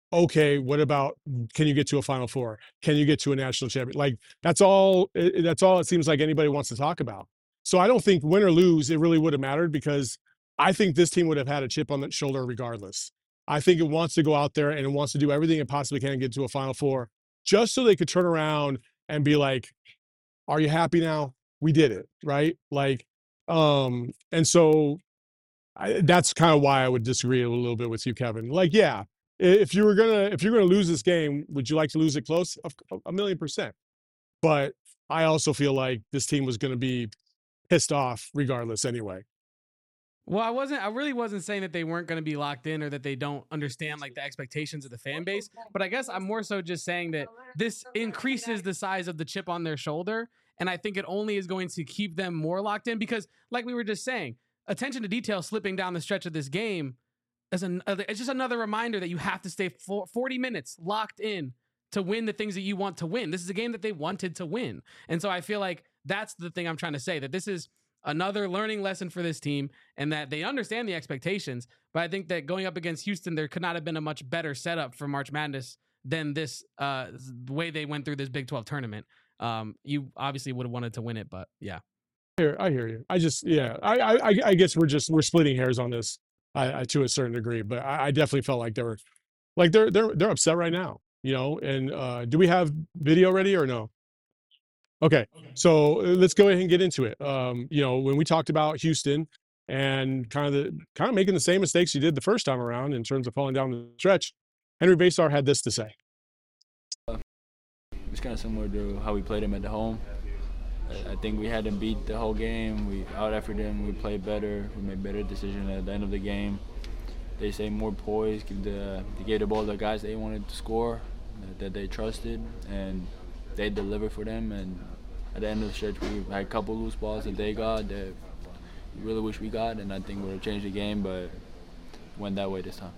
okay, what about, can you get to a Final Four? Can you get to a national champion? Like, that's all it seems like anybody wants to talk about. So I don't think win or lose, it really would have mattered, because I think this team would have had a chip on the shoulder regardless. I think it wants to go out there and it wants to do everything it possibly can to get to a Final Four, just so they could turn around and be like, are you happy now? We did it, right? Like, and so that's kind of why I would disagree a little bit with you, Kevin. Like, yeah, if you're gonna lose this game, would you like to lose it close? A million percent. But I also feel like this team was going to be pissed off regardless anyway. Well, I really wasn't saying that they weren't going to be locked in or that they don't understand like the expectations of the fan base. But I guess I'm more so just saying that this increases the size of the chip on their shoulder. And I think it only is going to keep them more locked in, because like we were just saying, attention to detail slipping down the stretch of this game it's just another reminder that you have to stay 40 minutes locked in to win the things that you want to win. This is a game that they wanted to win. And so I feel like that's the thing I'm trying to say, that this is another learning lesson for this team and that they understand the expectations. But I think that going up against Houston, there could not have been a much better setup for March Madness than this, the way they went through this Big 12 tournament. You obviously would have wanted to win it, but yeah. I hear you. I just, yeah, I guess we're splitting hairs on this, to a certain degree, but I definitely felt like they're upset right now, you know. And do we have video ready or no? Okay, so let's go ahead and get into it. You know, when we talked about Houston and kind of making the same mistakes you did the first time around in terms of falling down the stretch, Henry Basar had this to say. It's kind of similar to how we played him at the home. I think we had them beat the whole game. We out-efforted them. We played better. We made better decisions at the end of the game. They stayed more poised, gave the ball to the guys they wanted to score, that they trusted, and they delivered for them. And at the end of the stretch, we had a couple loose balls that they got that we really wish we got, and I think we would have changed the game, but it went that way this time.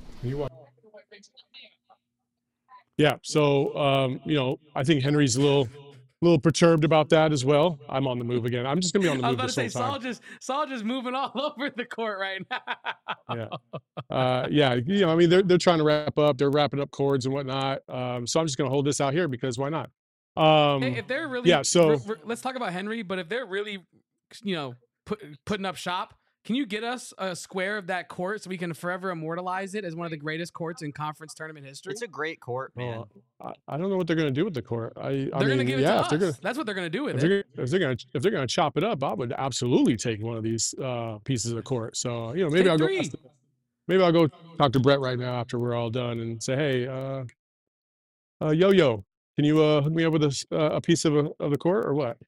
Yeah, so you know, I think Henry's a little perturbed about that as well. I'm on the move again. I'm just gonna be on the move this whole time. Saul just moving all over the court right now. Yeah, you know, I mean, they're trying to wrap up. They're wrapping up chords and whatnot. So I'm just gonna hold this out here because why not? Hey, if they're really, yeah. So let's talk about Henry. But if they're really, you know, putting up shop, can you get us a square of that court so we can forever immortalize it as one of the greatest courts in conference tournament history? It's a great court, man. I don't know what they're going to do with the court. They're going to give it to us. That's what they're going to do with it. If they're going to chop it up, I would absolutely take one of these pieces of the court. So, you know, maybe I'll go talk to Brett right now after we're all done and say, hey, Yo-Yo, can you hook me up with a piece of the court or what?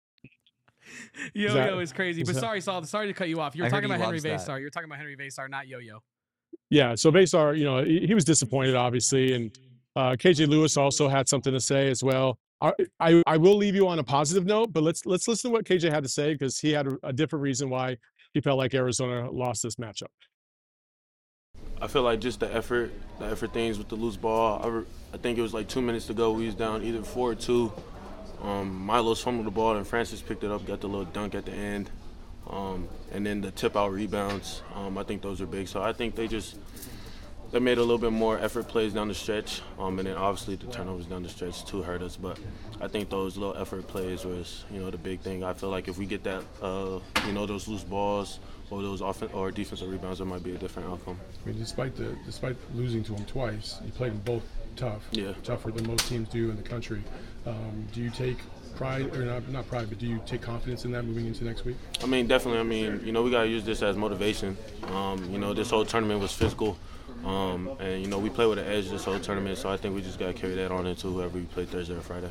Yo-Yo is crazy. But sorry, Saul. Sorry to cut you off. You were talking about Henry Basar. You're talking about Henry Basar, not Yo-Yo. Yeah. So Basar, you know, he was disappointed, obviously, and KJ Lewis also had something to say as well. I will leave you on a positive note, but let's listen to what KJ had to say because he had a different reason why he felt like Arizona lost this matchup. I feel like just the effort things with the loose ball. I think it was like 2 minutes to go. We was down either 4 or 2. Milos fumbled the ball and Francis picked it up, got the little dunk at the end. And then the tip out rebounds, I think those are big. So I think they made a little bit more effort plays down the stretch. And then obviously the turnovers down the stretch too hurt us. But I think those little effort plays was, you know, the big thing. I feel like if we get that, you know, those loose balls or those or defensive rebounds, it might be a different outcome. I mean, despite losing to them twice, you played them both tough. Yeah. Tougher than most teams do in the country. Do you take pride, or not pride, but do you take confidence in that moving into next week? I mean, definitely. I mean, you know, we got to use this as motivation. You know, this whole tournament was physical. And, you know, we play with an edge this whole tournament, so I think we just got to carry that on into whoever we play Thursday or Friday.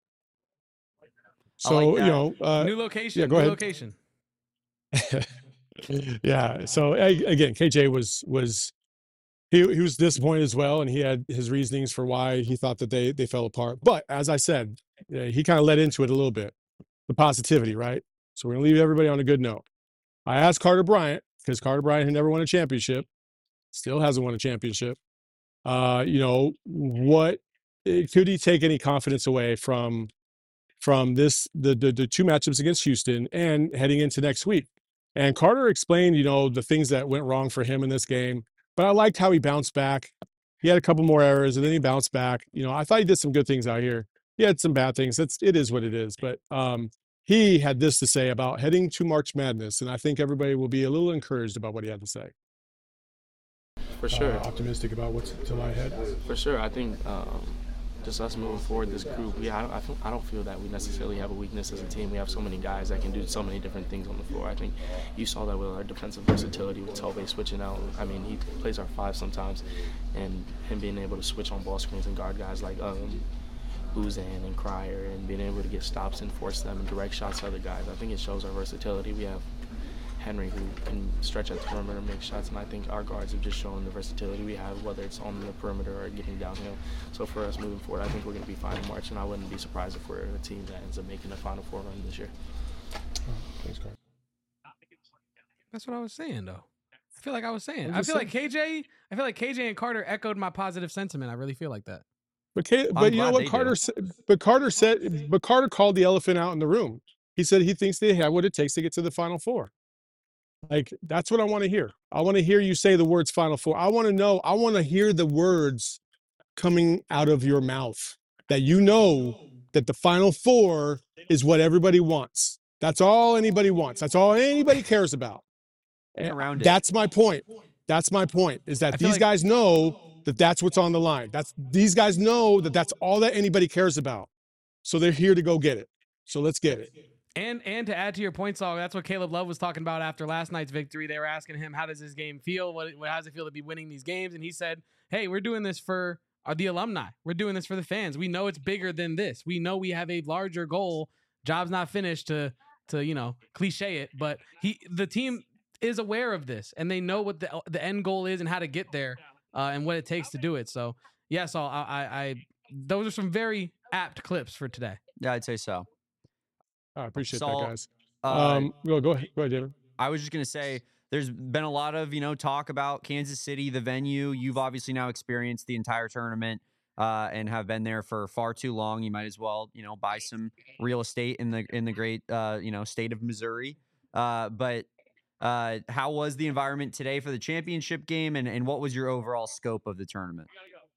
So, like you know. New location. Yeah, go ahead. Location. Yeah. So, again, KJ was he was disappointed as well, and he had his reasonings for why he thought that they fell apart. But as I said, he kind of led into it a little bit, the positivity, right? So we're going to leave everybody on a good note. I asked Carter Bryant, because Carter Bryant had never won a championship, still hasn't won a championship. You know, what could he take any confidence away from this, the 2 matchups against Houston and heading into next week? And Carter explained, you know, the things that went wrong for him in this game. But I liked how he bounced back. He had a couple more errors, and then he bounced back. I thought he did some good things out here. He had some bad things. It is what it is. But he had this to say about heading to March Madness, and I think everybody will be a little encouraged about what he had to say. For sure. Optimistic about what's to lie ahead? For sure. I think just us moving forward, this group, I don't feel that we necessarily have a weakness as a team. We have so many guys that can do so many different things on the floor. I think you saw that with our defensive versatility with Tove switching out. I mean, he plays our 5 sometimes, and him being able to switch on ball screens and guard guys like Uzan and Cryer, and being able to get stops and force them and direct shots to other guys. I think it shows our versatility. We have Henry, who can stretch at the perimeter and make shots, and I think our guards have just shown the versatility we have, whether it's on the perimeter or getting downhill. So for us moving forward, I think we're going to be fine in March, and I wouldn't be surprised if we're a team that ends up making a Final Four run this year. Thanks, Carl. That's what I was saying, though. I feel like I was saying. I feel like KJ and Carter echoed my positive sentiment. I really feel like that. But you know what Carter said? But Carter called the elephant out in the room. He said he thinks they have what it takes to get to the Final Four. Like, that's what I want to hear. I want to hear you say the words Final Four. I want to hear the words coming out of your mouth that that the Final Four is what everybody wants. That's all anybody wants. That's all anybody cares about. And that's my point. That's my point, is that these guys know that that's what's on the line. These guys know that that's all that anybody cares about. So they're here to go get it. So let's get it. And to add to your point, Saul, that's what Caleb Love was talking about after last night's victory. They were asking him, how does this game feel? How does it feel to be winning these games? And he said, hey, we're doing this for the alumni. We're doing this for the fans. We know it's bigger than this. We know we have a larger goal. Job's not finished to cliche it, but the team is aware of this, and they know what the end goal is and how to get there, and what it takes to do it. So, yeah, Saul, those are some very apt clips for today. Yeah, I'd say so. I appreciate Saul, that, guys. Go ahead, David. I was just going to say, there's been a lot of, talk about Kansas City, the venue. You've obviously now experienced the entire tournament and have been there for far too long. You might as well, buy some real estate in the great, state of Missouri. But how was the environment today for the championship game, and what was your overall scope of the tournament?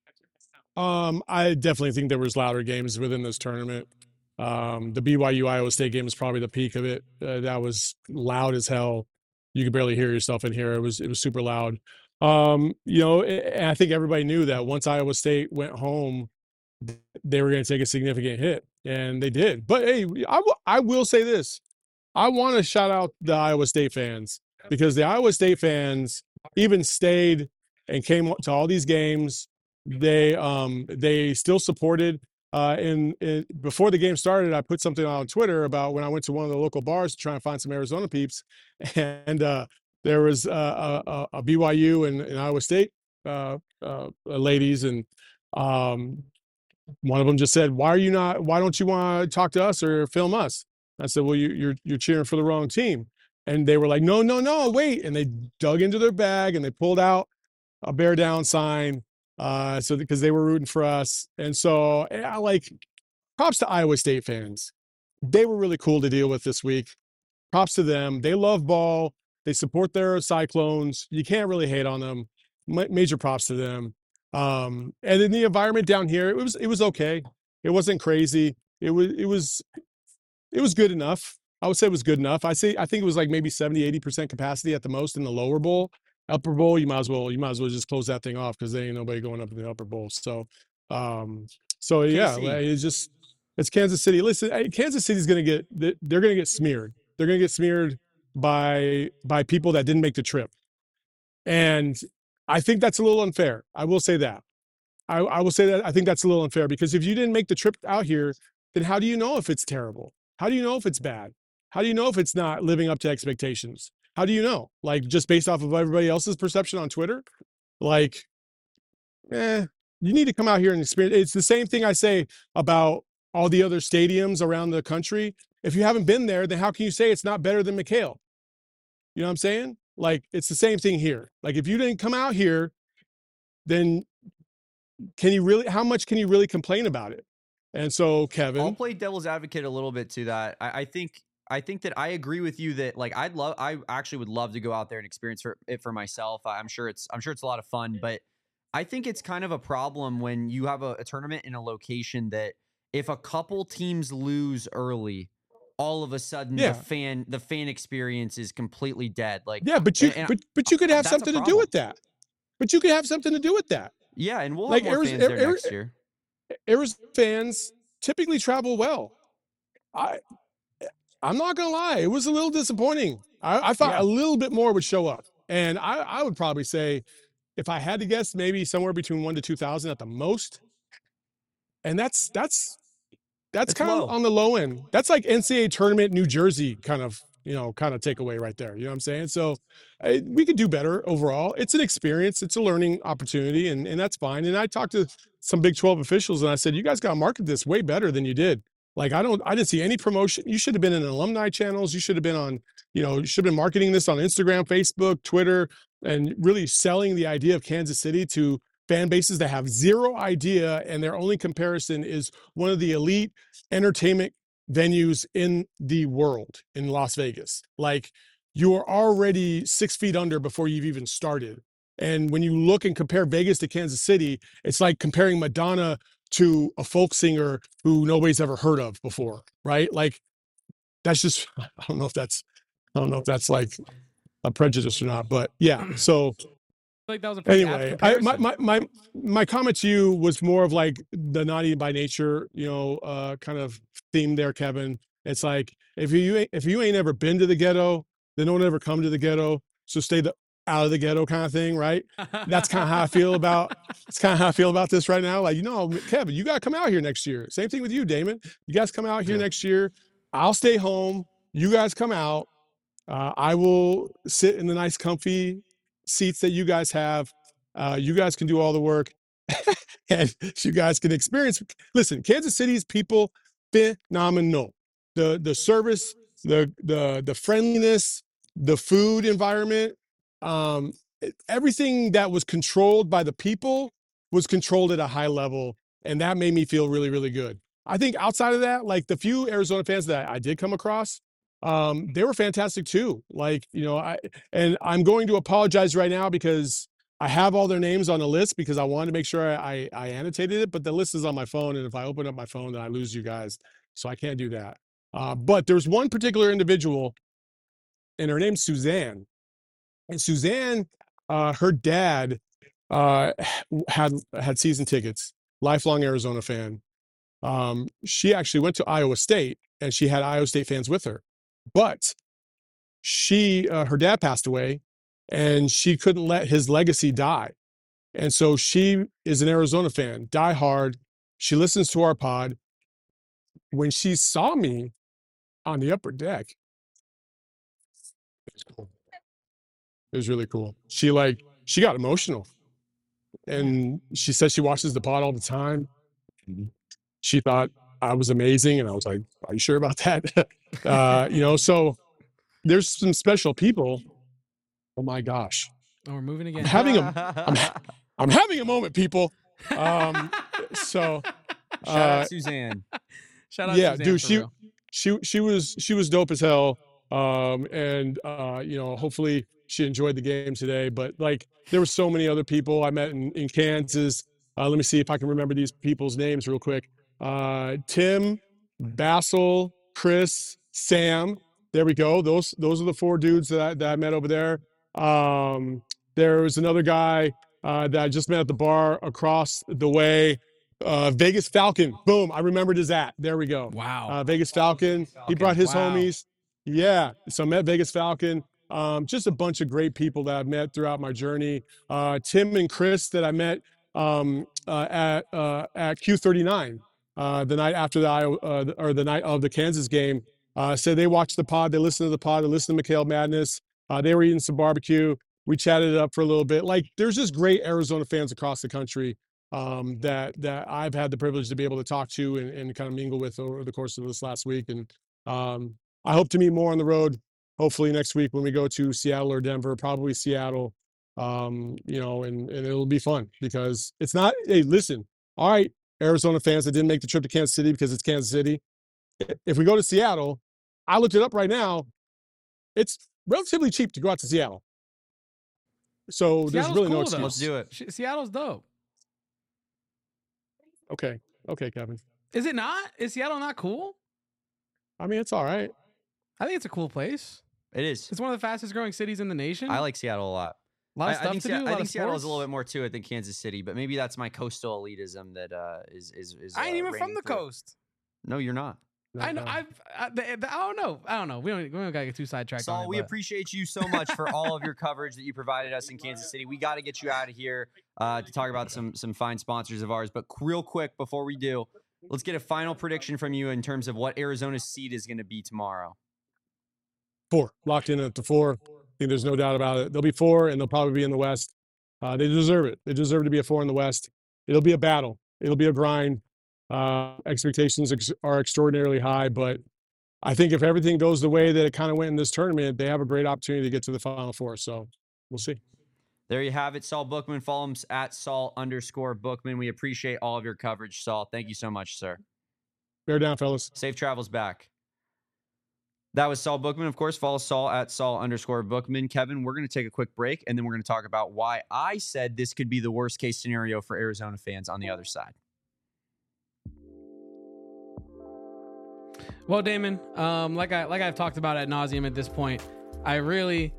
I definitely think there was louder games within this tournament. The BYU Iowa State game was probably the peak of it. That was loud as hell. You could barely hear yourself in here. It was super loud. And I think everybody knew that once Iowa State went home, they were going to take a significant hit, and they did. But hey, I will say this. I want to shout out the Iowa State fans, because the Iowa State fans even stayed and came to all these games. They still supported. Before the game started, I put something on Twitter about when I went to one of the local bars to try and find some Arizona peeps, and there was a BYU and Iowa State ladies, and one of them just said, why don't you want to talk to us or film us? I said, well, you're cheering for the wrong team. And they were like, no, wait. And they dug into their bag and they pulled out a bear down sign. Because they were rooting for us. And so props to Iowa State fans. They were really cool to deal with this week. Props to them. They love ball. They support their Cyclones. You can't really hate on them. Major props to them. And in the environment down here, it was okay. It wasn't crazy. It was good enough. I would say it was good enough. I think it was like maybe 70-80% capacity at the most in the lower bowl. Upper bowl, you might as well just close that thing off, because there ain't nobody going up in the upper bowl. So yeah, it's Kansas City. Listen, Kansas City's they're gonna get smeared. They're gonna get smeared by people that didn't make the trip, and I think that's a little unfair. I will say that. I will say that I think that's a little unfair, because if you didn't make the trip out here, then how do you know if it's terrible? How do you know if it's bad? How do you know if it's not living up to expectations? How do you know? Just based off of everybody else's perception on Twitter? You need to come out here and experience. It's the same thing I say about all the other stadiums around the country. If you haven't been there, then how can you say it's not better than McHale? You know what I'm saying? It's the same thing here. If you didn't come out here, then how much can you really complain about it? And so, Kevin, I'll play devil's advocate a little bit to that. I think that I agree with you that I actually would love to go out there and experience it for myself. I'm sure it's a lot of fun, but I think it's kind of a problem when you have a tournament in a location that if a couple teams lose early, all of a sudden the fan experience is completely dead. Like but you could have something to do with that. But you could have something to do with that. Yeah, and we'll have more fans there next year. Arizona fans typically travel well. I'm not gonna lie, it was a little disappointing. I thought a little bit more would show up, and I would probably say, if I had to guess, maybe somewhere between 1,000 to 2,000 at the most. And that's kind of on the low end. That's like NCAA tournament New Jersey kind of takeaway right there. You know what I'm saying? So we could do better overall. It's an experience. It's a learning opportunity, and that's fine. And I talked to some Big 12 officials, and I said, you guys got to market this way better than you did. Like, I didn't see any promotion. You should have been in alumni channels. You should have been on, you should have been marketing this on Instagram, Facebook, Twitter, and really selling the idea of Kansas City to fan bases that have zero idea, and their only comparison is one of the elite entertainment venues in the world in Las Vegas. Like, you are already 6 feet under before you've even started. And when you look and compare Vegas to Kansas City, it's like comparing Madonna to a folk singer who nobody's ever heard of before, right? Like, that's just, I don't know if that's like a prejudice or not, but yeah. So like that was a pretty anyway, my comment to you was more of like the naughty by nature, kind of theme there, Kevin. It's like, if you ain't ever been to the ghetto, then don't ever come to the ghetto. So stay out of the ghetto kind of thing, right? That's kind of how I feel about. It's kind of how I feel about this right now. Like, Kevin, you got to come out here next year. Same thing with you, Damon. You guys come out here next year. I'll stay home. You guys come out. I will sit in the nice, comfy seats that you guys have. You guys can do all the work, and you guys can experience. Listen, Kansas City's people, phenomenal. The service, the friendliness, the food environment, everything that was controlled by the people was controlled at a high level, and that made me feel really, really good. I think outside of that, like the few Arizona fans that I did come across, they were fantastic too. Like, I'm going to apologize right now because I have all their names on the list because I wanted to make sure I annotated it, but the list is on my phone, and if I open up my phone, then I lose you guys, so I can't do that. But there's one particular individual, and her name's Suzanne. And Suzanne, her dad had season tickets, lifelong Arizona fan. She actually went to Iowa State, and she had Iowa State fans with her. But her dad passed away, and she couldn't let his legacy die. And so she is an Arizona fan, die hard. She listens to our pod. When she saw me on the upper deck, it was cool. It was really cool. She got emotional, and she said she watches the pod all the time. She thought I was amazing, and I was like, "Are you sure about that?" So there's some special people. Oh my gosh! Oh, we're moving again. I'm having a moment, people. Shout out Suzanne. Shout out, Suzanne, dude. She was dope as hell. Hopefully she enjoyed the game today. But like, there were so many other people I met in Kansas. Let me see if I can remember these people's names real quick. Tim, Basil, Chris, Sam. There we go. Those are the 4 dudes that I met over there. There was another guy that I just met at the bar across the way. Vegas Falcon. Boom. I remembered his at. There we go. Wow. Vegas Falcon. He brought his homies. Yeah. So I met Vegas Falcon. Just a bunch of great people that I've met throughout my journey. Tim and Chris that I met at Q39 the night after the night of the Kansas game. Said they watched the pod, they listened to the pod, they listened to McHale Madness. They were eating some barbecue. We chatted it up for a little bit. Like, there's just great Arizona fans across the country that I've had the privilege to be able to talk to and kind of mingle with over the course of this last week. And I hope to meet more on the road, hopefully next week when we go to Seattle or Denver, probably Seattle, and it'll be fun because it's not, hey, listen, all right, Arizona fans that didn't make the trip to Kansas City because it's Kansas City. If we go to Seattle, I looked it up right now, it's relatively cheap to go out to Seattle. So there's Seattle's really no cool, excuse. though. Let's do it. Seattle's dope. Okay, Kevin. Is it not? Is Seattle not cool? I mean, it's all right. I think it's a cool place. It is. It's one of the fastest growing cities in the nation. I like Seattle a lot. a lot of I stuff think, to do. I think Seattle has a little bit more to it than Kansas City, but maybe that's my coastal elitism that is. I ain't even from reigning the through. coast. No, you're not. No, I know. no. I don't know. We don't gotta get too sidetracked. Saul, on it, we but- appreciate you so much for all of your coverage that you provided us in Kansas City. We got to get you out of here to talk about some fine sponsors of ours. But real quick, before we do, let's get a final prediction from you in terms of what Arizona's seed is going to be tomorrow. 4 locked in at the 4. I think there's no doubt about it. They'll be 4, and they'll probably be in the West. They deserve it. They deserve to be a 4 in the West. It'll be a battle. It'll be a grind. Expectations are extraordinarily high, but I think if everything goes the way that it kind of went in this tournament, they have a great opportunity to get to the Final Four. So we'll see. There you have it, Saul Bookman. Follow him at Saul_Bookman. We appreciate all of your coverage, Saul. Thank you so much, sir. Bear down, fellas. Safe travels back. That was Saul Bookman. Of course, follow Saul at Saul_Bookman. Kevin, we're going to take a quick break, and then we're going to talk about why I said this could be the worst case scenario for Arizona fans on the other side. Well, Damon, like I've talked about ad nauseum at this point, I really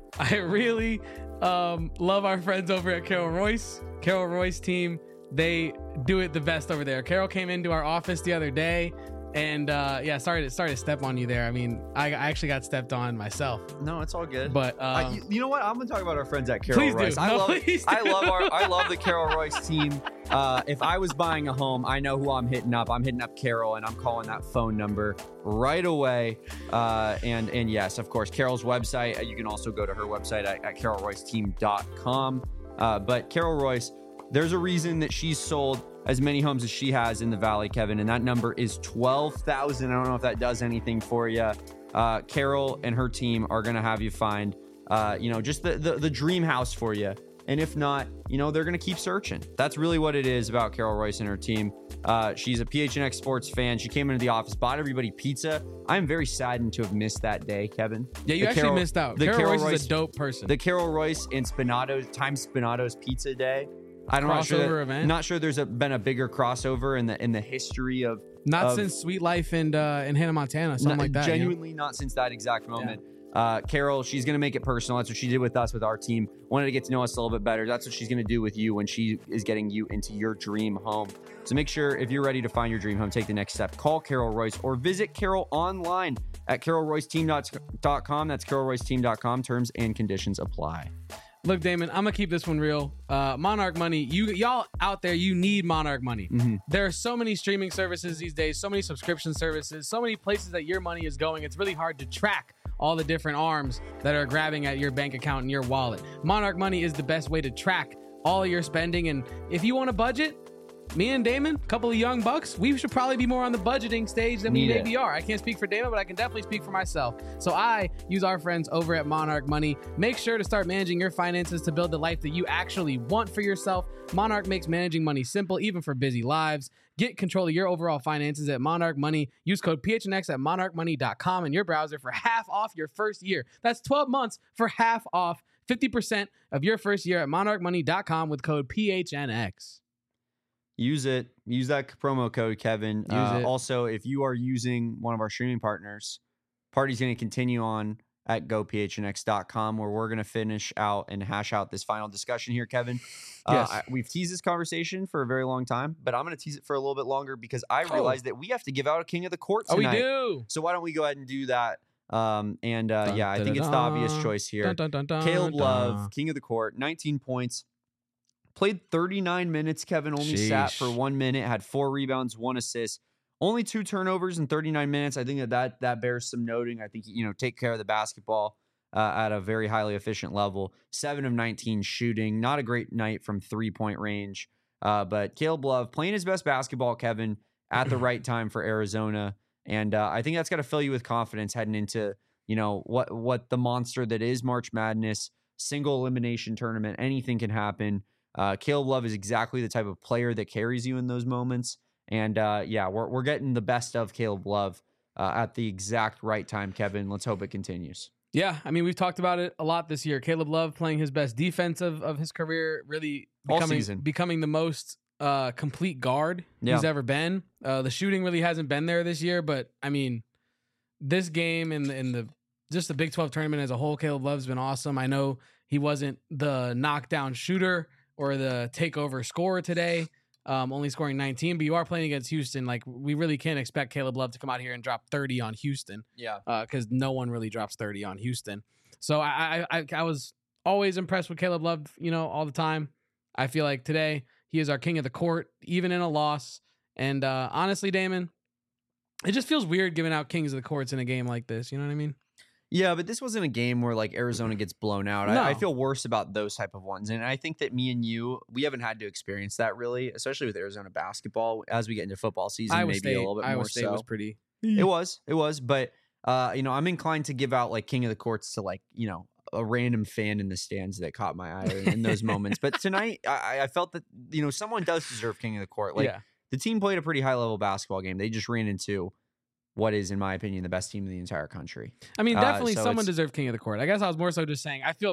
love our friends over at Carol Royce. Carol Royce team, they do it the best over there. Carol came into our office the other day, and sorry to step on you there. I mean, I actually got stepped on myself. No, it's all good. But you know what? I'm gonna talk about our friends at Carol please Royce. do. I I love the Carol Royce team. If I was buying a home, I know who I'm hitting up. I'm hitting up Carol, and I'm calling that phone number right away. And yes, of course, Carol's website. You can also go to her website at carolroyceteam.com. But Carol Royce, there's a reason that she's sold as many homes as she has in the Valley, Kevin, and that number is 12,000. I don't know if that does anything for you. Carol and her team are going to have you find, just the dream house for you. And if not, they're going to keep searching. That's really what it is about Carol Royce and her team. She's a PHNX sports fan. She came into the office, bought everybody pizza. I'm very saddened to have missed that day, Kevin. yeah, you actually missed out. Carol Royce is a dope person. The Carol Royce and Spinato's Pizza Day. I'm event. Not sure there's been a bigger crossover in the history of since Sweet Life in Hannah Montana, something like that. Genuinely not since that exact moment. Yeah. Carol, she's going to make it personal. That's what she did with us, with our team. Wanted to get to know us a little bit better. That's what she's going to do with you when she is getting you into your dream home. So make sure, if you're ready to find your dream home, take the next step. Call Carol Royce or visit Carol online at carolroyceteam.com. That's carolroyceteam.com. Terms and conditions apply. Look, Damon, I'm gonna keep this one real. Monarch Money, y'all out there, you need Monarch Money. Mm-hmm. There are so many streaming services these days, so many subscription services, so many places that your money is going. It's really hard to track all the different arms that are grabbing at your bank account and your wallet. Monarch Money is the best way to track all of your spending. And if you want a budget, me and Damon, a couple of young bucks, we should probably be more on the budgeting stage than we maybe are. I can't speak for Damon, but I can definitely speak for myself. So I use our friends over at Monarch Money. Make sure to start managing your finances to build the life that you actually want for yourself. Monarch makes managing money simple, even for busy lives. Get control of your overall finances at Monarch Money. Use code PHNX at monarchmoney.com in your browser for half off your first year. That's 12 months for half off, 50% of your first year at monarchmoney.com with code PHNX. Use it. Use that promo code, Kevin. Also, if you are using one of our streaming partners, party's going to continue on at gophnx.com, where we're going to finish out and hash out this final discussion here, Kevin. Yes. We've teased this conversation for a very long time, but I'm going to tease it for a little bit longer because I realized that we have to give out a King of the Court tonight. Oh, we do. So why don't we go ahead and do that? I think it's the obvious choice here. Caleb Love, King of the Court, 19 points. Played 39 minutes, Kevin. Only sat for 1 minute, had 4 rebounds, 1 assist, only 2 turnovers in 39 minutes. I think that bears some noting. I think, take care of the basketball at a very highly efficient level. 7 of 19 shooting. Not a great night from 3-point range. But Caleb Love playing his best basketball, Kevin, at the right time for Arizona. And I think that's got to fill you with confidence heading into, what the monster that is March Madness, single elimination tournament. Anything can happen. Caleb Love is exactly the type of player that carries you in those moments. And we're getting the best of Caleb Love at the exact right time, Kevin. Let's hope it continues. Yeah, I mean, we've talked about it a lot this year. Caleb Love playing his best defense of his career, really becoming the most complete guard he's ever been. The shooting really hasn't been there this year, but I mean, this game and the just the Big 12 tournament as a whole, Caleb Love's been awesome. I know he wasn't the knockdown shooter or the takeover scorer today, only scoring 19, but you are playing against Houston. Like, we really can't expect Caleb Love to come out here and drop 30 on Houston. Yeah. Because no one really drops 30 on Houston. So I was always impressed with Caleb Love, all the time. I feel like today he is our king of the court, even in a loss. And honestly, Damon, it just feels weird giving out kings of the courts in a game like this. You know what I mean? Yeah, but this wasn't a game where like Arizona gets blown out. No. I feel worse about those type of ones. And I think that me and you, we haven't had to experience that really, especially with Arizona basketball. As we get into football season, Iowa maybe State, a little bit Iowa more State so. was pretty. It was. But, I'm inclined to give out like king of the courts to like, a random fan in the stands that caught my eye in those moments. But tonight, I felt that, someone does deserve king of the court. Like, the team played a pretty high level basketball game. They just ran into what is, in my opinion, the best team in the entire country. I mean, definitely someone deserved king of the court. I guess I was more so just saying I feel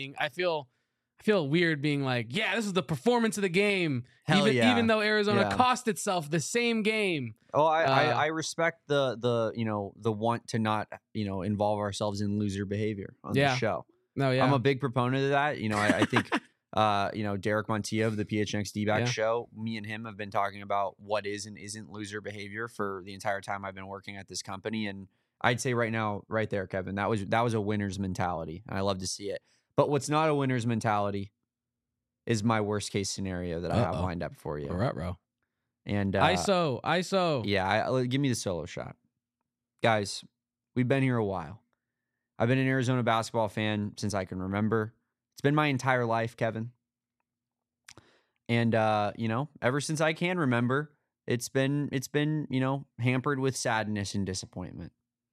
weird being like, yeah, this is the performance of the game. Even though Arizona cost itself the same game. Oh, I respect the want to not, involve ourselves in loser behavior on the show. No, yeah. I'm a big proponent of that. I think Derek Montilla of the PHNX D-Back show, me and him have been talking about what is and isn't loser behavior for the entire time I've been working at this company. And I'd say right now, right there, Kevin, that was a winner's mentality. And I love to see it. But what's not a winner's mentality is my worst case scenario that I have lined up for you. All right, bro. And ISO. Yeah, give me the solo shot. Guys, we've been here a while. I've been an Arizona basketball fan since I can remember. It's been my entire life, Kevin. And ever since I can remember, it's been, hampered with sadness and disappointment.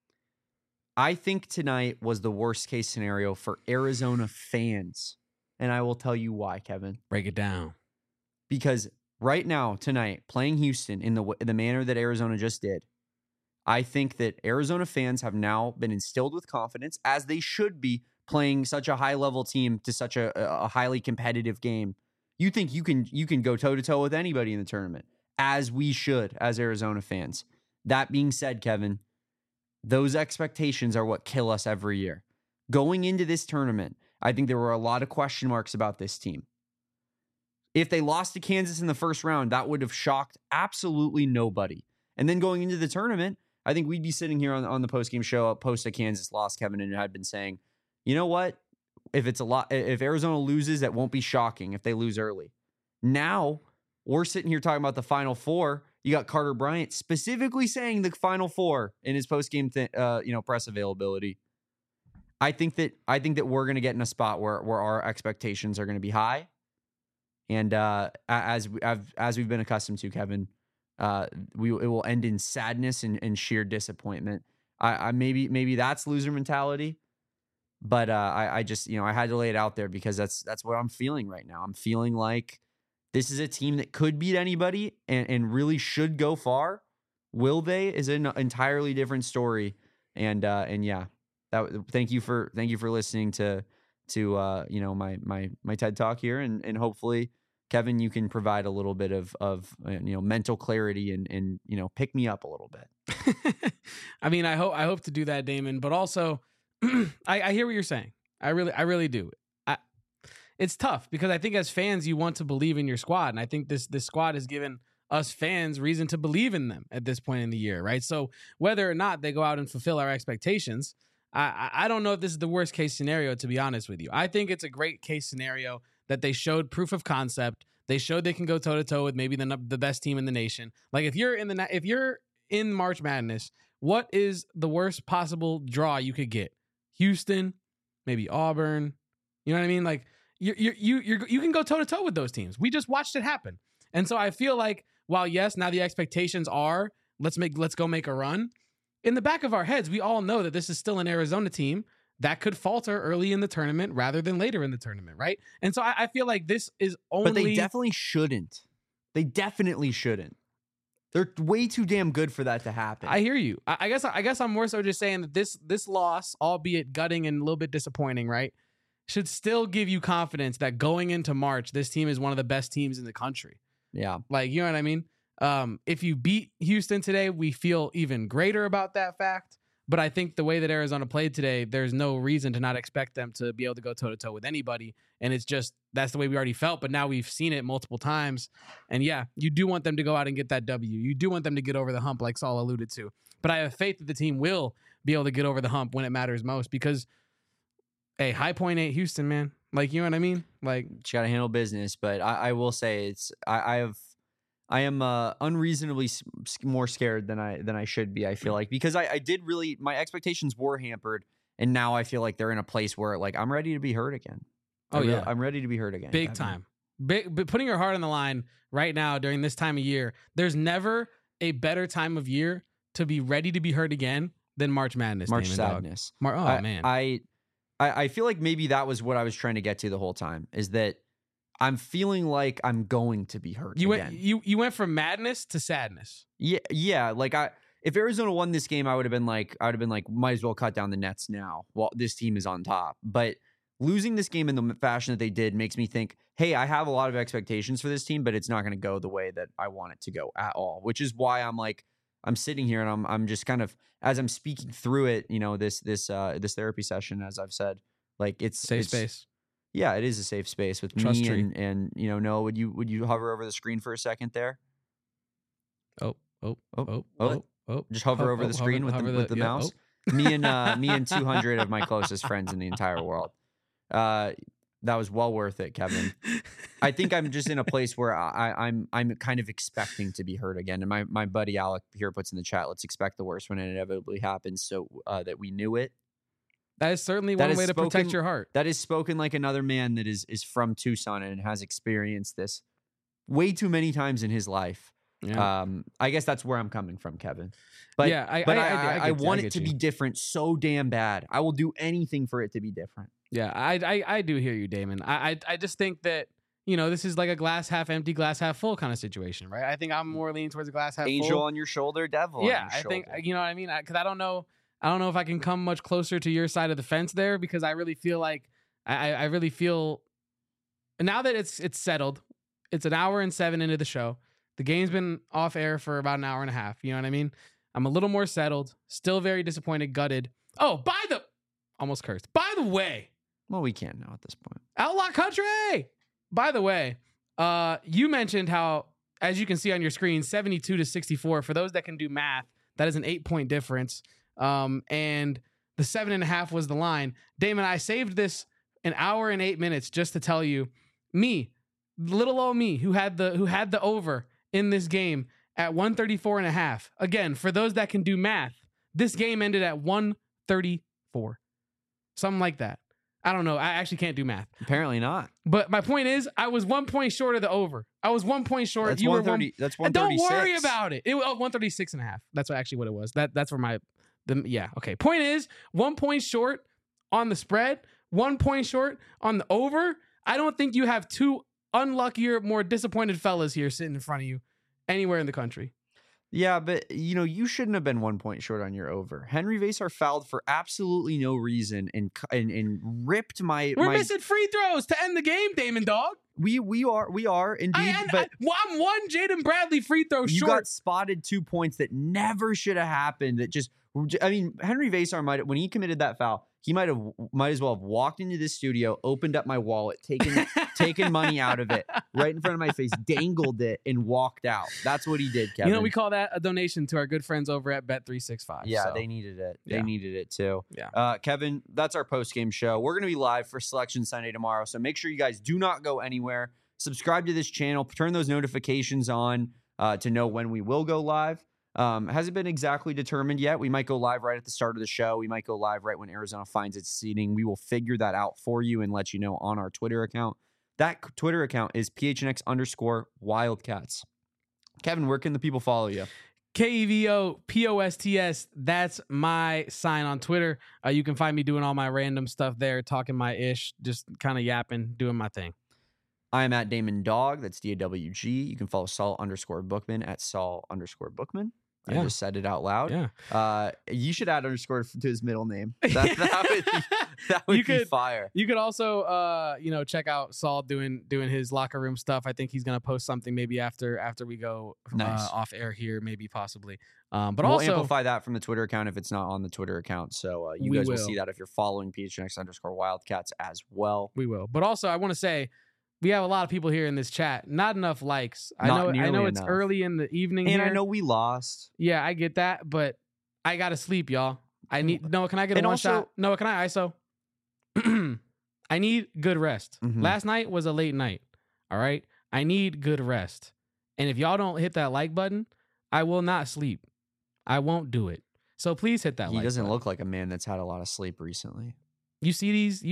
I think tonight was the worst case scenario for Arizona fans. And I will tell you why, Kevin. Break it down. Because right now, tonight, playing Houston in the manner that Arizona just did, I think that Arizona fans have now been instilled with confidence, as they should be, playing such a high-level team to such a highly competitive game. You think you can go toe-to-toe with anybody in the tournament, as we should as Arizona fans. That being said, Kevin, those expectations are what kill us every year. Going into this tournament, I think there were a lot of question marks about this team. If they lost to Kansas in the first round, that would have shocked absolutely nobody. And then going into the tournament, I think we'd be sitting here on the post-game show post a Kansas loss, Kevin, and had been saying, you know what? If Arizona loses, that won't be shocking if they lose early. Now, we're sitting here talking about the Final Four. You got Carter Bryant specifically saying the Final Four in his post-game press availability. I think that we're going to get in a spot where our expectations are going to be high. And as we've been accustomed to, Kevin, it will end in sadness and sheer disappointment. I maybe that's loser mentality, but I just I had to lay it out there because that's what I'm feeling right now. I'm feeling like this is a team that could beat anybody and really should go far. Will they is an entirely different story. And yeah, thank you for listening to my TED Talk here, and hopefully, Kevin, you can provide a little bit of mental clarity and pick me up a little bit. I mean, I hope to do that, Damon. But also, I hear what you're saying. I really do. It's tough because I think as fans, you want to believe in your squad, and I think this squad has given us fans reason to believe in them at this point in the year, right? So whether or not they go out and fulfill our expectations, I don't know if this is the worst case scenario, to be honest with you. I think it's a great case scenario that they showed proof of concept. They showed they can go toe to toe with maybe the best team in the nation. Like if you're in March Madness, what is the worst possible draw you could get? Houston, maybe Auburn. You know what I mean? Like you can go toe to toe with those teams. We just watched it happen, and so I feel like while yes, now the expectations are let's go make a run. In the back of our heads, we all know that this is still an Arizona team that could falter early in the tournament rather than later in the tournament, right? And so I feel like this is only... But they definitely shouldn't. They definitely shouldn't. They're way too damn good for that to happen. I hear you. I guess I'm more so just saying that this loss, albeit gutting and a little bit disappointing, right, should still give you confidence that going into March, this team is one of the best teams in the country. Yeah. Like, you know what I mean? If you beat Houston today, we feel even greater about that fact. But I think the way that Arizona played today, there's no reason to not expect them to be able to go toe-to-toe with anybody. And it's just, that's the way we already felt. But now we've seen it multiple times. And yeah, you do want them to go out and get that W. You do want them to get over the hump, like Saul alluded to. But I have faith that the team will be able to get over the hump when it matters most. Because, hey, High Point ain't Houston, man. Like, you know what I mean? Like, you got to handle business. But I will say I am unreasonably more scared than I should be. I feel like, because I did really, my expectations were hampered, and now I feel like they're in a place where, like, I'm ready to be hurt again. I'm ready to be hurt again. Big time. But putting your heart on the line right now during this time of year. There's never a better time of year to be ready to be hurt again than March Madness. March Sadness. Man. I feel like maybe that was what I was trying to get to the whole time, is that I'm feeling like I'm going to be hurt again. You went from madness to sadness. Yeah. Like, if Arizona won this game, I would have been like, might as well cut down the nets now while this team is on top. But losing this game in the fashion that they did makes me think, hey, I have a lot of expectations for this team, but it's not going to go the way that I want it to go at all. Which is why I'm sitting here and I'm just kind of, as I'm speaking through it, you know, this therapy session, as I've said, like, it's safe space. Yeah, it is a safe space with Trust me tree. and you know, Noah, would you hover over the screen for a second there? Oh. Just hover over the screen with the mouse. Me and 200 of my closest friends in the entire world. That was well worth it, Kevin. I think I'm just in a place where I'm kind of expecting to be hurt again. And my buddy Alec here puts in the chat, let's expect the worst when it inevitably happens, so that we knew it. That is certainly one way to protect your heart. That is spoken like another man that is from Tucson and has experienced this way too many times in his life. Yeah. I guess that's where I'm coming from, Kevin. But yeah, I want it to be different so damn bad. I will do anything for it to be different. Yeah, I do hear you, Damon. I just think that, you know, this is like a glass half empty, glass half full kind of situation, right? I think I'm more leaning towards a glass half full. Angel on your shoulder, devil. Yeah, on your shoulder. think, you know what I mean? Because I don't know if I can come much closer to your side of the fence there, because I really feel like I really feel now that it's settled. It's an hour and 7 into the show. The game's been off air for about an hour and a half. You know what I mean? I'm a little more settled. Still very disappointed, gutted. Oh, almost cursed. By the way. Well, we can't now at this point. Outlaw Country. By the way, you mentioned how, as you can see on your screen, 72-64. For those that can do math, that is an 8-point difference. And the 7.5 was the line. Damon, I saved this an hour and 8 minutes just to tell you, little old me, who had the over in this game at 134.5. Again, for those that can do math, this game ended at 134, something like that. I don't know. I actually can't do math. Apparently not. But my point is, I was 1 point short of the over. I was 1 point short. That's 130. That's 136. Don't worry about it. It was 136.5. That's actually what it was. That's where okay. Point is, 1 point short on the spread, 1 point short on the over. I don't think you have two unluckier, more disappointed fellas here sitting in front of you anywhere in the country. Yeah, but you know, you shouldn't have been 1 point short on your over. Henry Vasar fouled for absolutely no reason and ripped my. We're missing free throws to end the game, Damon Dog. We are indeed. I'm one Jaden Bradley free throw short. You got spotted 2 points that never should have happened. That just, I mean, Henry Vasar when he committed that foul, he might as well have walked into this studio, opened up my wallet, taken money out of it right in front of my face, dangled it, and walked out. That's what he did, Kevin. You know, we call that a donation to our good friends over at Bet365. Yeah, so. They needed it. Yeah. They needed it too. Yeah. Kevin, that's our post-game show. We're going to be live for Selection Sunday tomorrow, so make sure you guys do not go anywhere. Subscribe to this channel. Turn those notifications on to know when we will go live. Hasn't been exactly determined yet. We might go live right at the start of the show. We might go live right when Arizona finds its seating. We will figure that out for you and let you know on our Twitter account. That Twitter account is PHNX_Wildcats. Kevin, where can the people follow you? KEVOPOSTS. That's my sign on Twitter. You can find me doing all my random stuff there, talking my ish, just kind of yapping, doing my thing. I'm at Damon Dog. That's DAWG. You can follow Saul_Bookman at Saul_Bookman. I just said it out loud. Yeah. You should add underscore to his middle name. That would be fire. You could also, check out Saul doing his locker room stuff. I think he's gonna post something maybe after we go off air here, maybe possibly. But we'll also amplify that from the Twitter account if it's not on the Twitter account. So you guys will see that if you're following PHNX_Wildcats as well. We will. But also, I want to say, we have a lot of people here in this chat. Not enough likes. I know it's early in the evening and here. I know we lost. Yeah, I get that, but I gotta sleep, y'all. I need Noah. Can I get a one shot? Noah, can I ISO? I need good rest. Mm-hmm. Last night was a late night. All right, I need good rest. And if y'all don't hit that like button, I will not sleep. I won't do it. So please hit that like button. He doesn't look like a man that's had a lot of sleep recently. You see these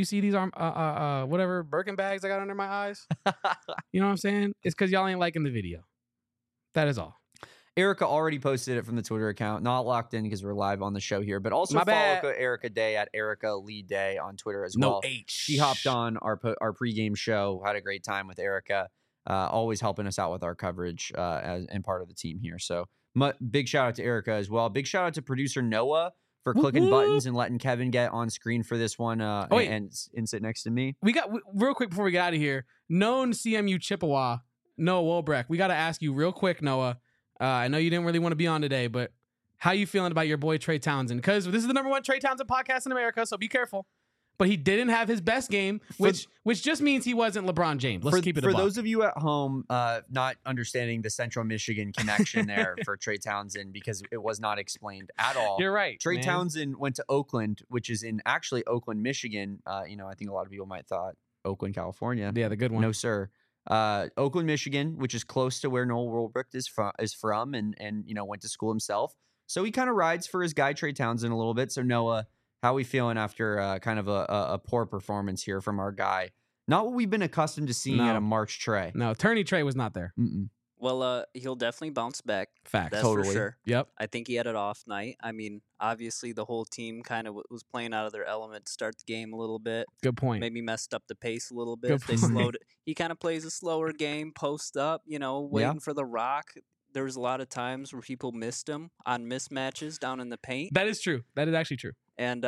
whatever Birkin bags I got under my eyes? You know what I'm saying? It's because y'all ain't liking the video. That is all. Erica already posted it from the Twitter account. Not locked in because we're live on the show here, but also follow Erica Day at Erica Lee Day on Twitter as well. No H. She hopped on our pregame show, had a great time with Erica, always helping us out with our coverage and part of the team here. So big shout out to Erica as well. Big shout out to producer Noah for clicking buttons and letting Kevin get on screen for this one and sit next to me. We got real quick before we get out of here. Known CMU Chippewa, Noah Wolbrecht. We got to ask you real quick, Noah. I know you didn't really want to be on today, but how you feeling about your boy Trey Townsend? Because this is the #1 Trey Townsend podcast in America, so be careful. But he didn't have his best game, which just means he wasn't LeBron James. Let's keep it for those of you at home not understanding the Central Michigan connection there for Trey Townsend, because it was not explained at all. You're right. Trey Townsend went to Oakland, which is in actually Oakland, Michigan. I think a lot of people might thought Oakland, California. Yeah, the good one. No, sir. Oakland, Michigan, which is close to where Noah Wolbrecht is from and went to school himself. So he kind of rides for his guy Trey Townsend a little bit. So Noah, how are we feeling after kind of a poor performance here from our guy? Not what we've been accustomed to seeing at a March Trey. No, Turney Trey was not there. Mm-mm. Well, he'll definitely bounce back. Facts. That's Totally. for sure. Yep. I think he had an off night. I mean, obviously the whole team kind of was playing out of their element to start the game a little bit. Good point. Maybe messed up the pace a little bit. Good They point. slowed it. He kind of plays a slower game, post up, waiting for the rock. There was a lot of times where people missed him on mismatches down in the paint. That is true. That is actually true. And,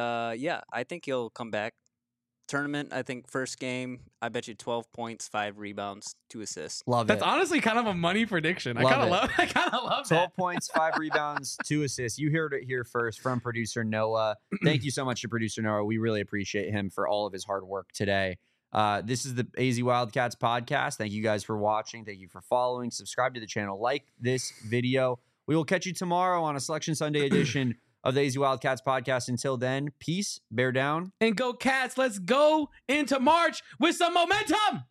I think he'll come back. Tournament, I think first game, I bet you 12 points, 5 rebounds, 2 assists. Love That's it. honestly kind of a money prediction. I Love kind of it. love. I kind of love 12 that. points, 5 rebounds, 2 assists. You heard it here first from producer Noah. Thank you so much to producer Noah. We really appreciate him for all of his hard work today. This is the AZ Wildcats podcast. Thank you guys for watching. Thank you for following. Subscribe to the channel. Like this video. We will catch you tomorrow on a Selection Sunday edition of the AZ Wildcats podcast. Until then, peace, bear down. And go Cats. Let's go into March with some momentum.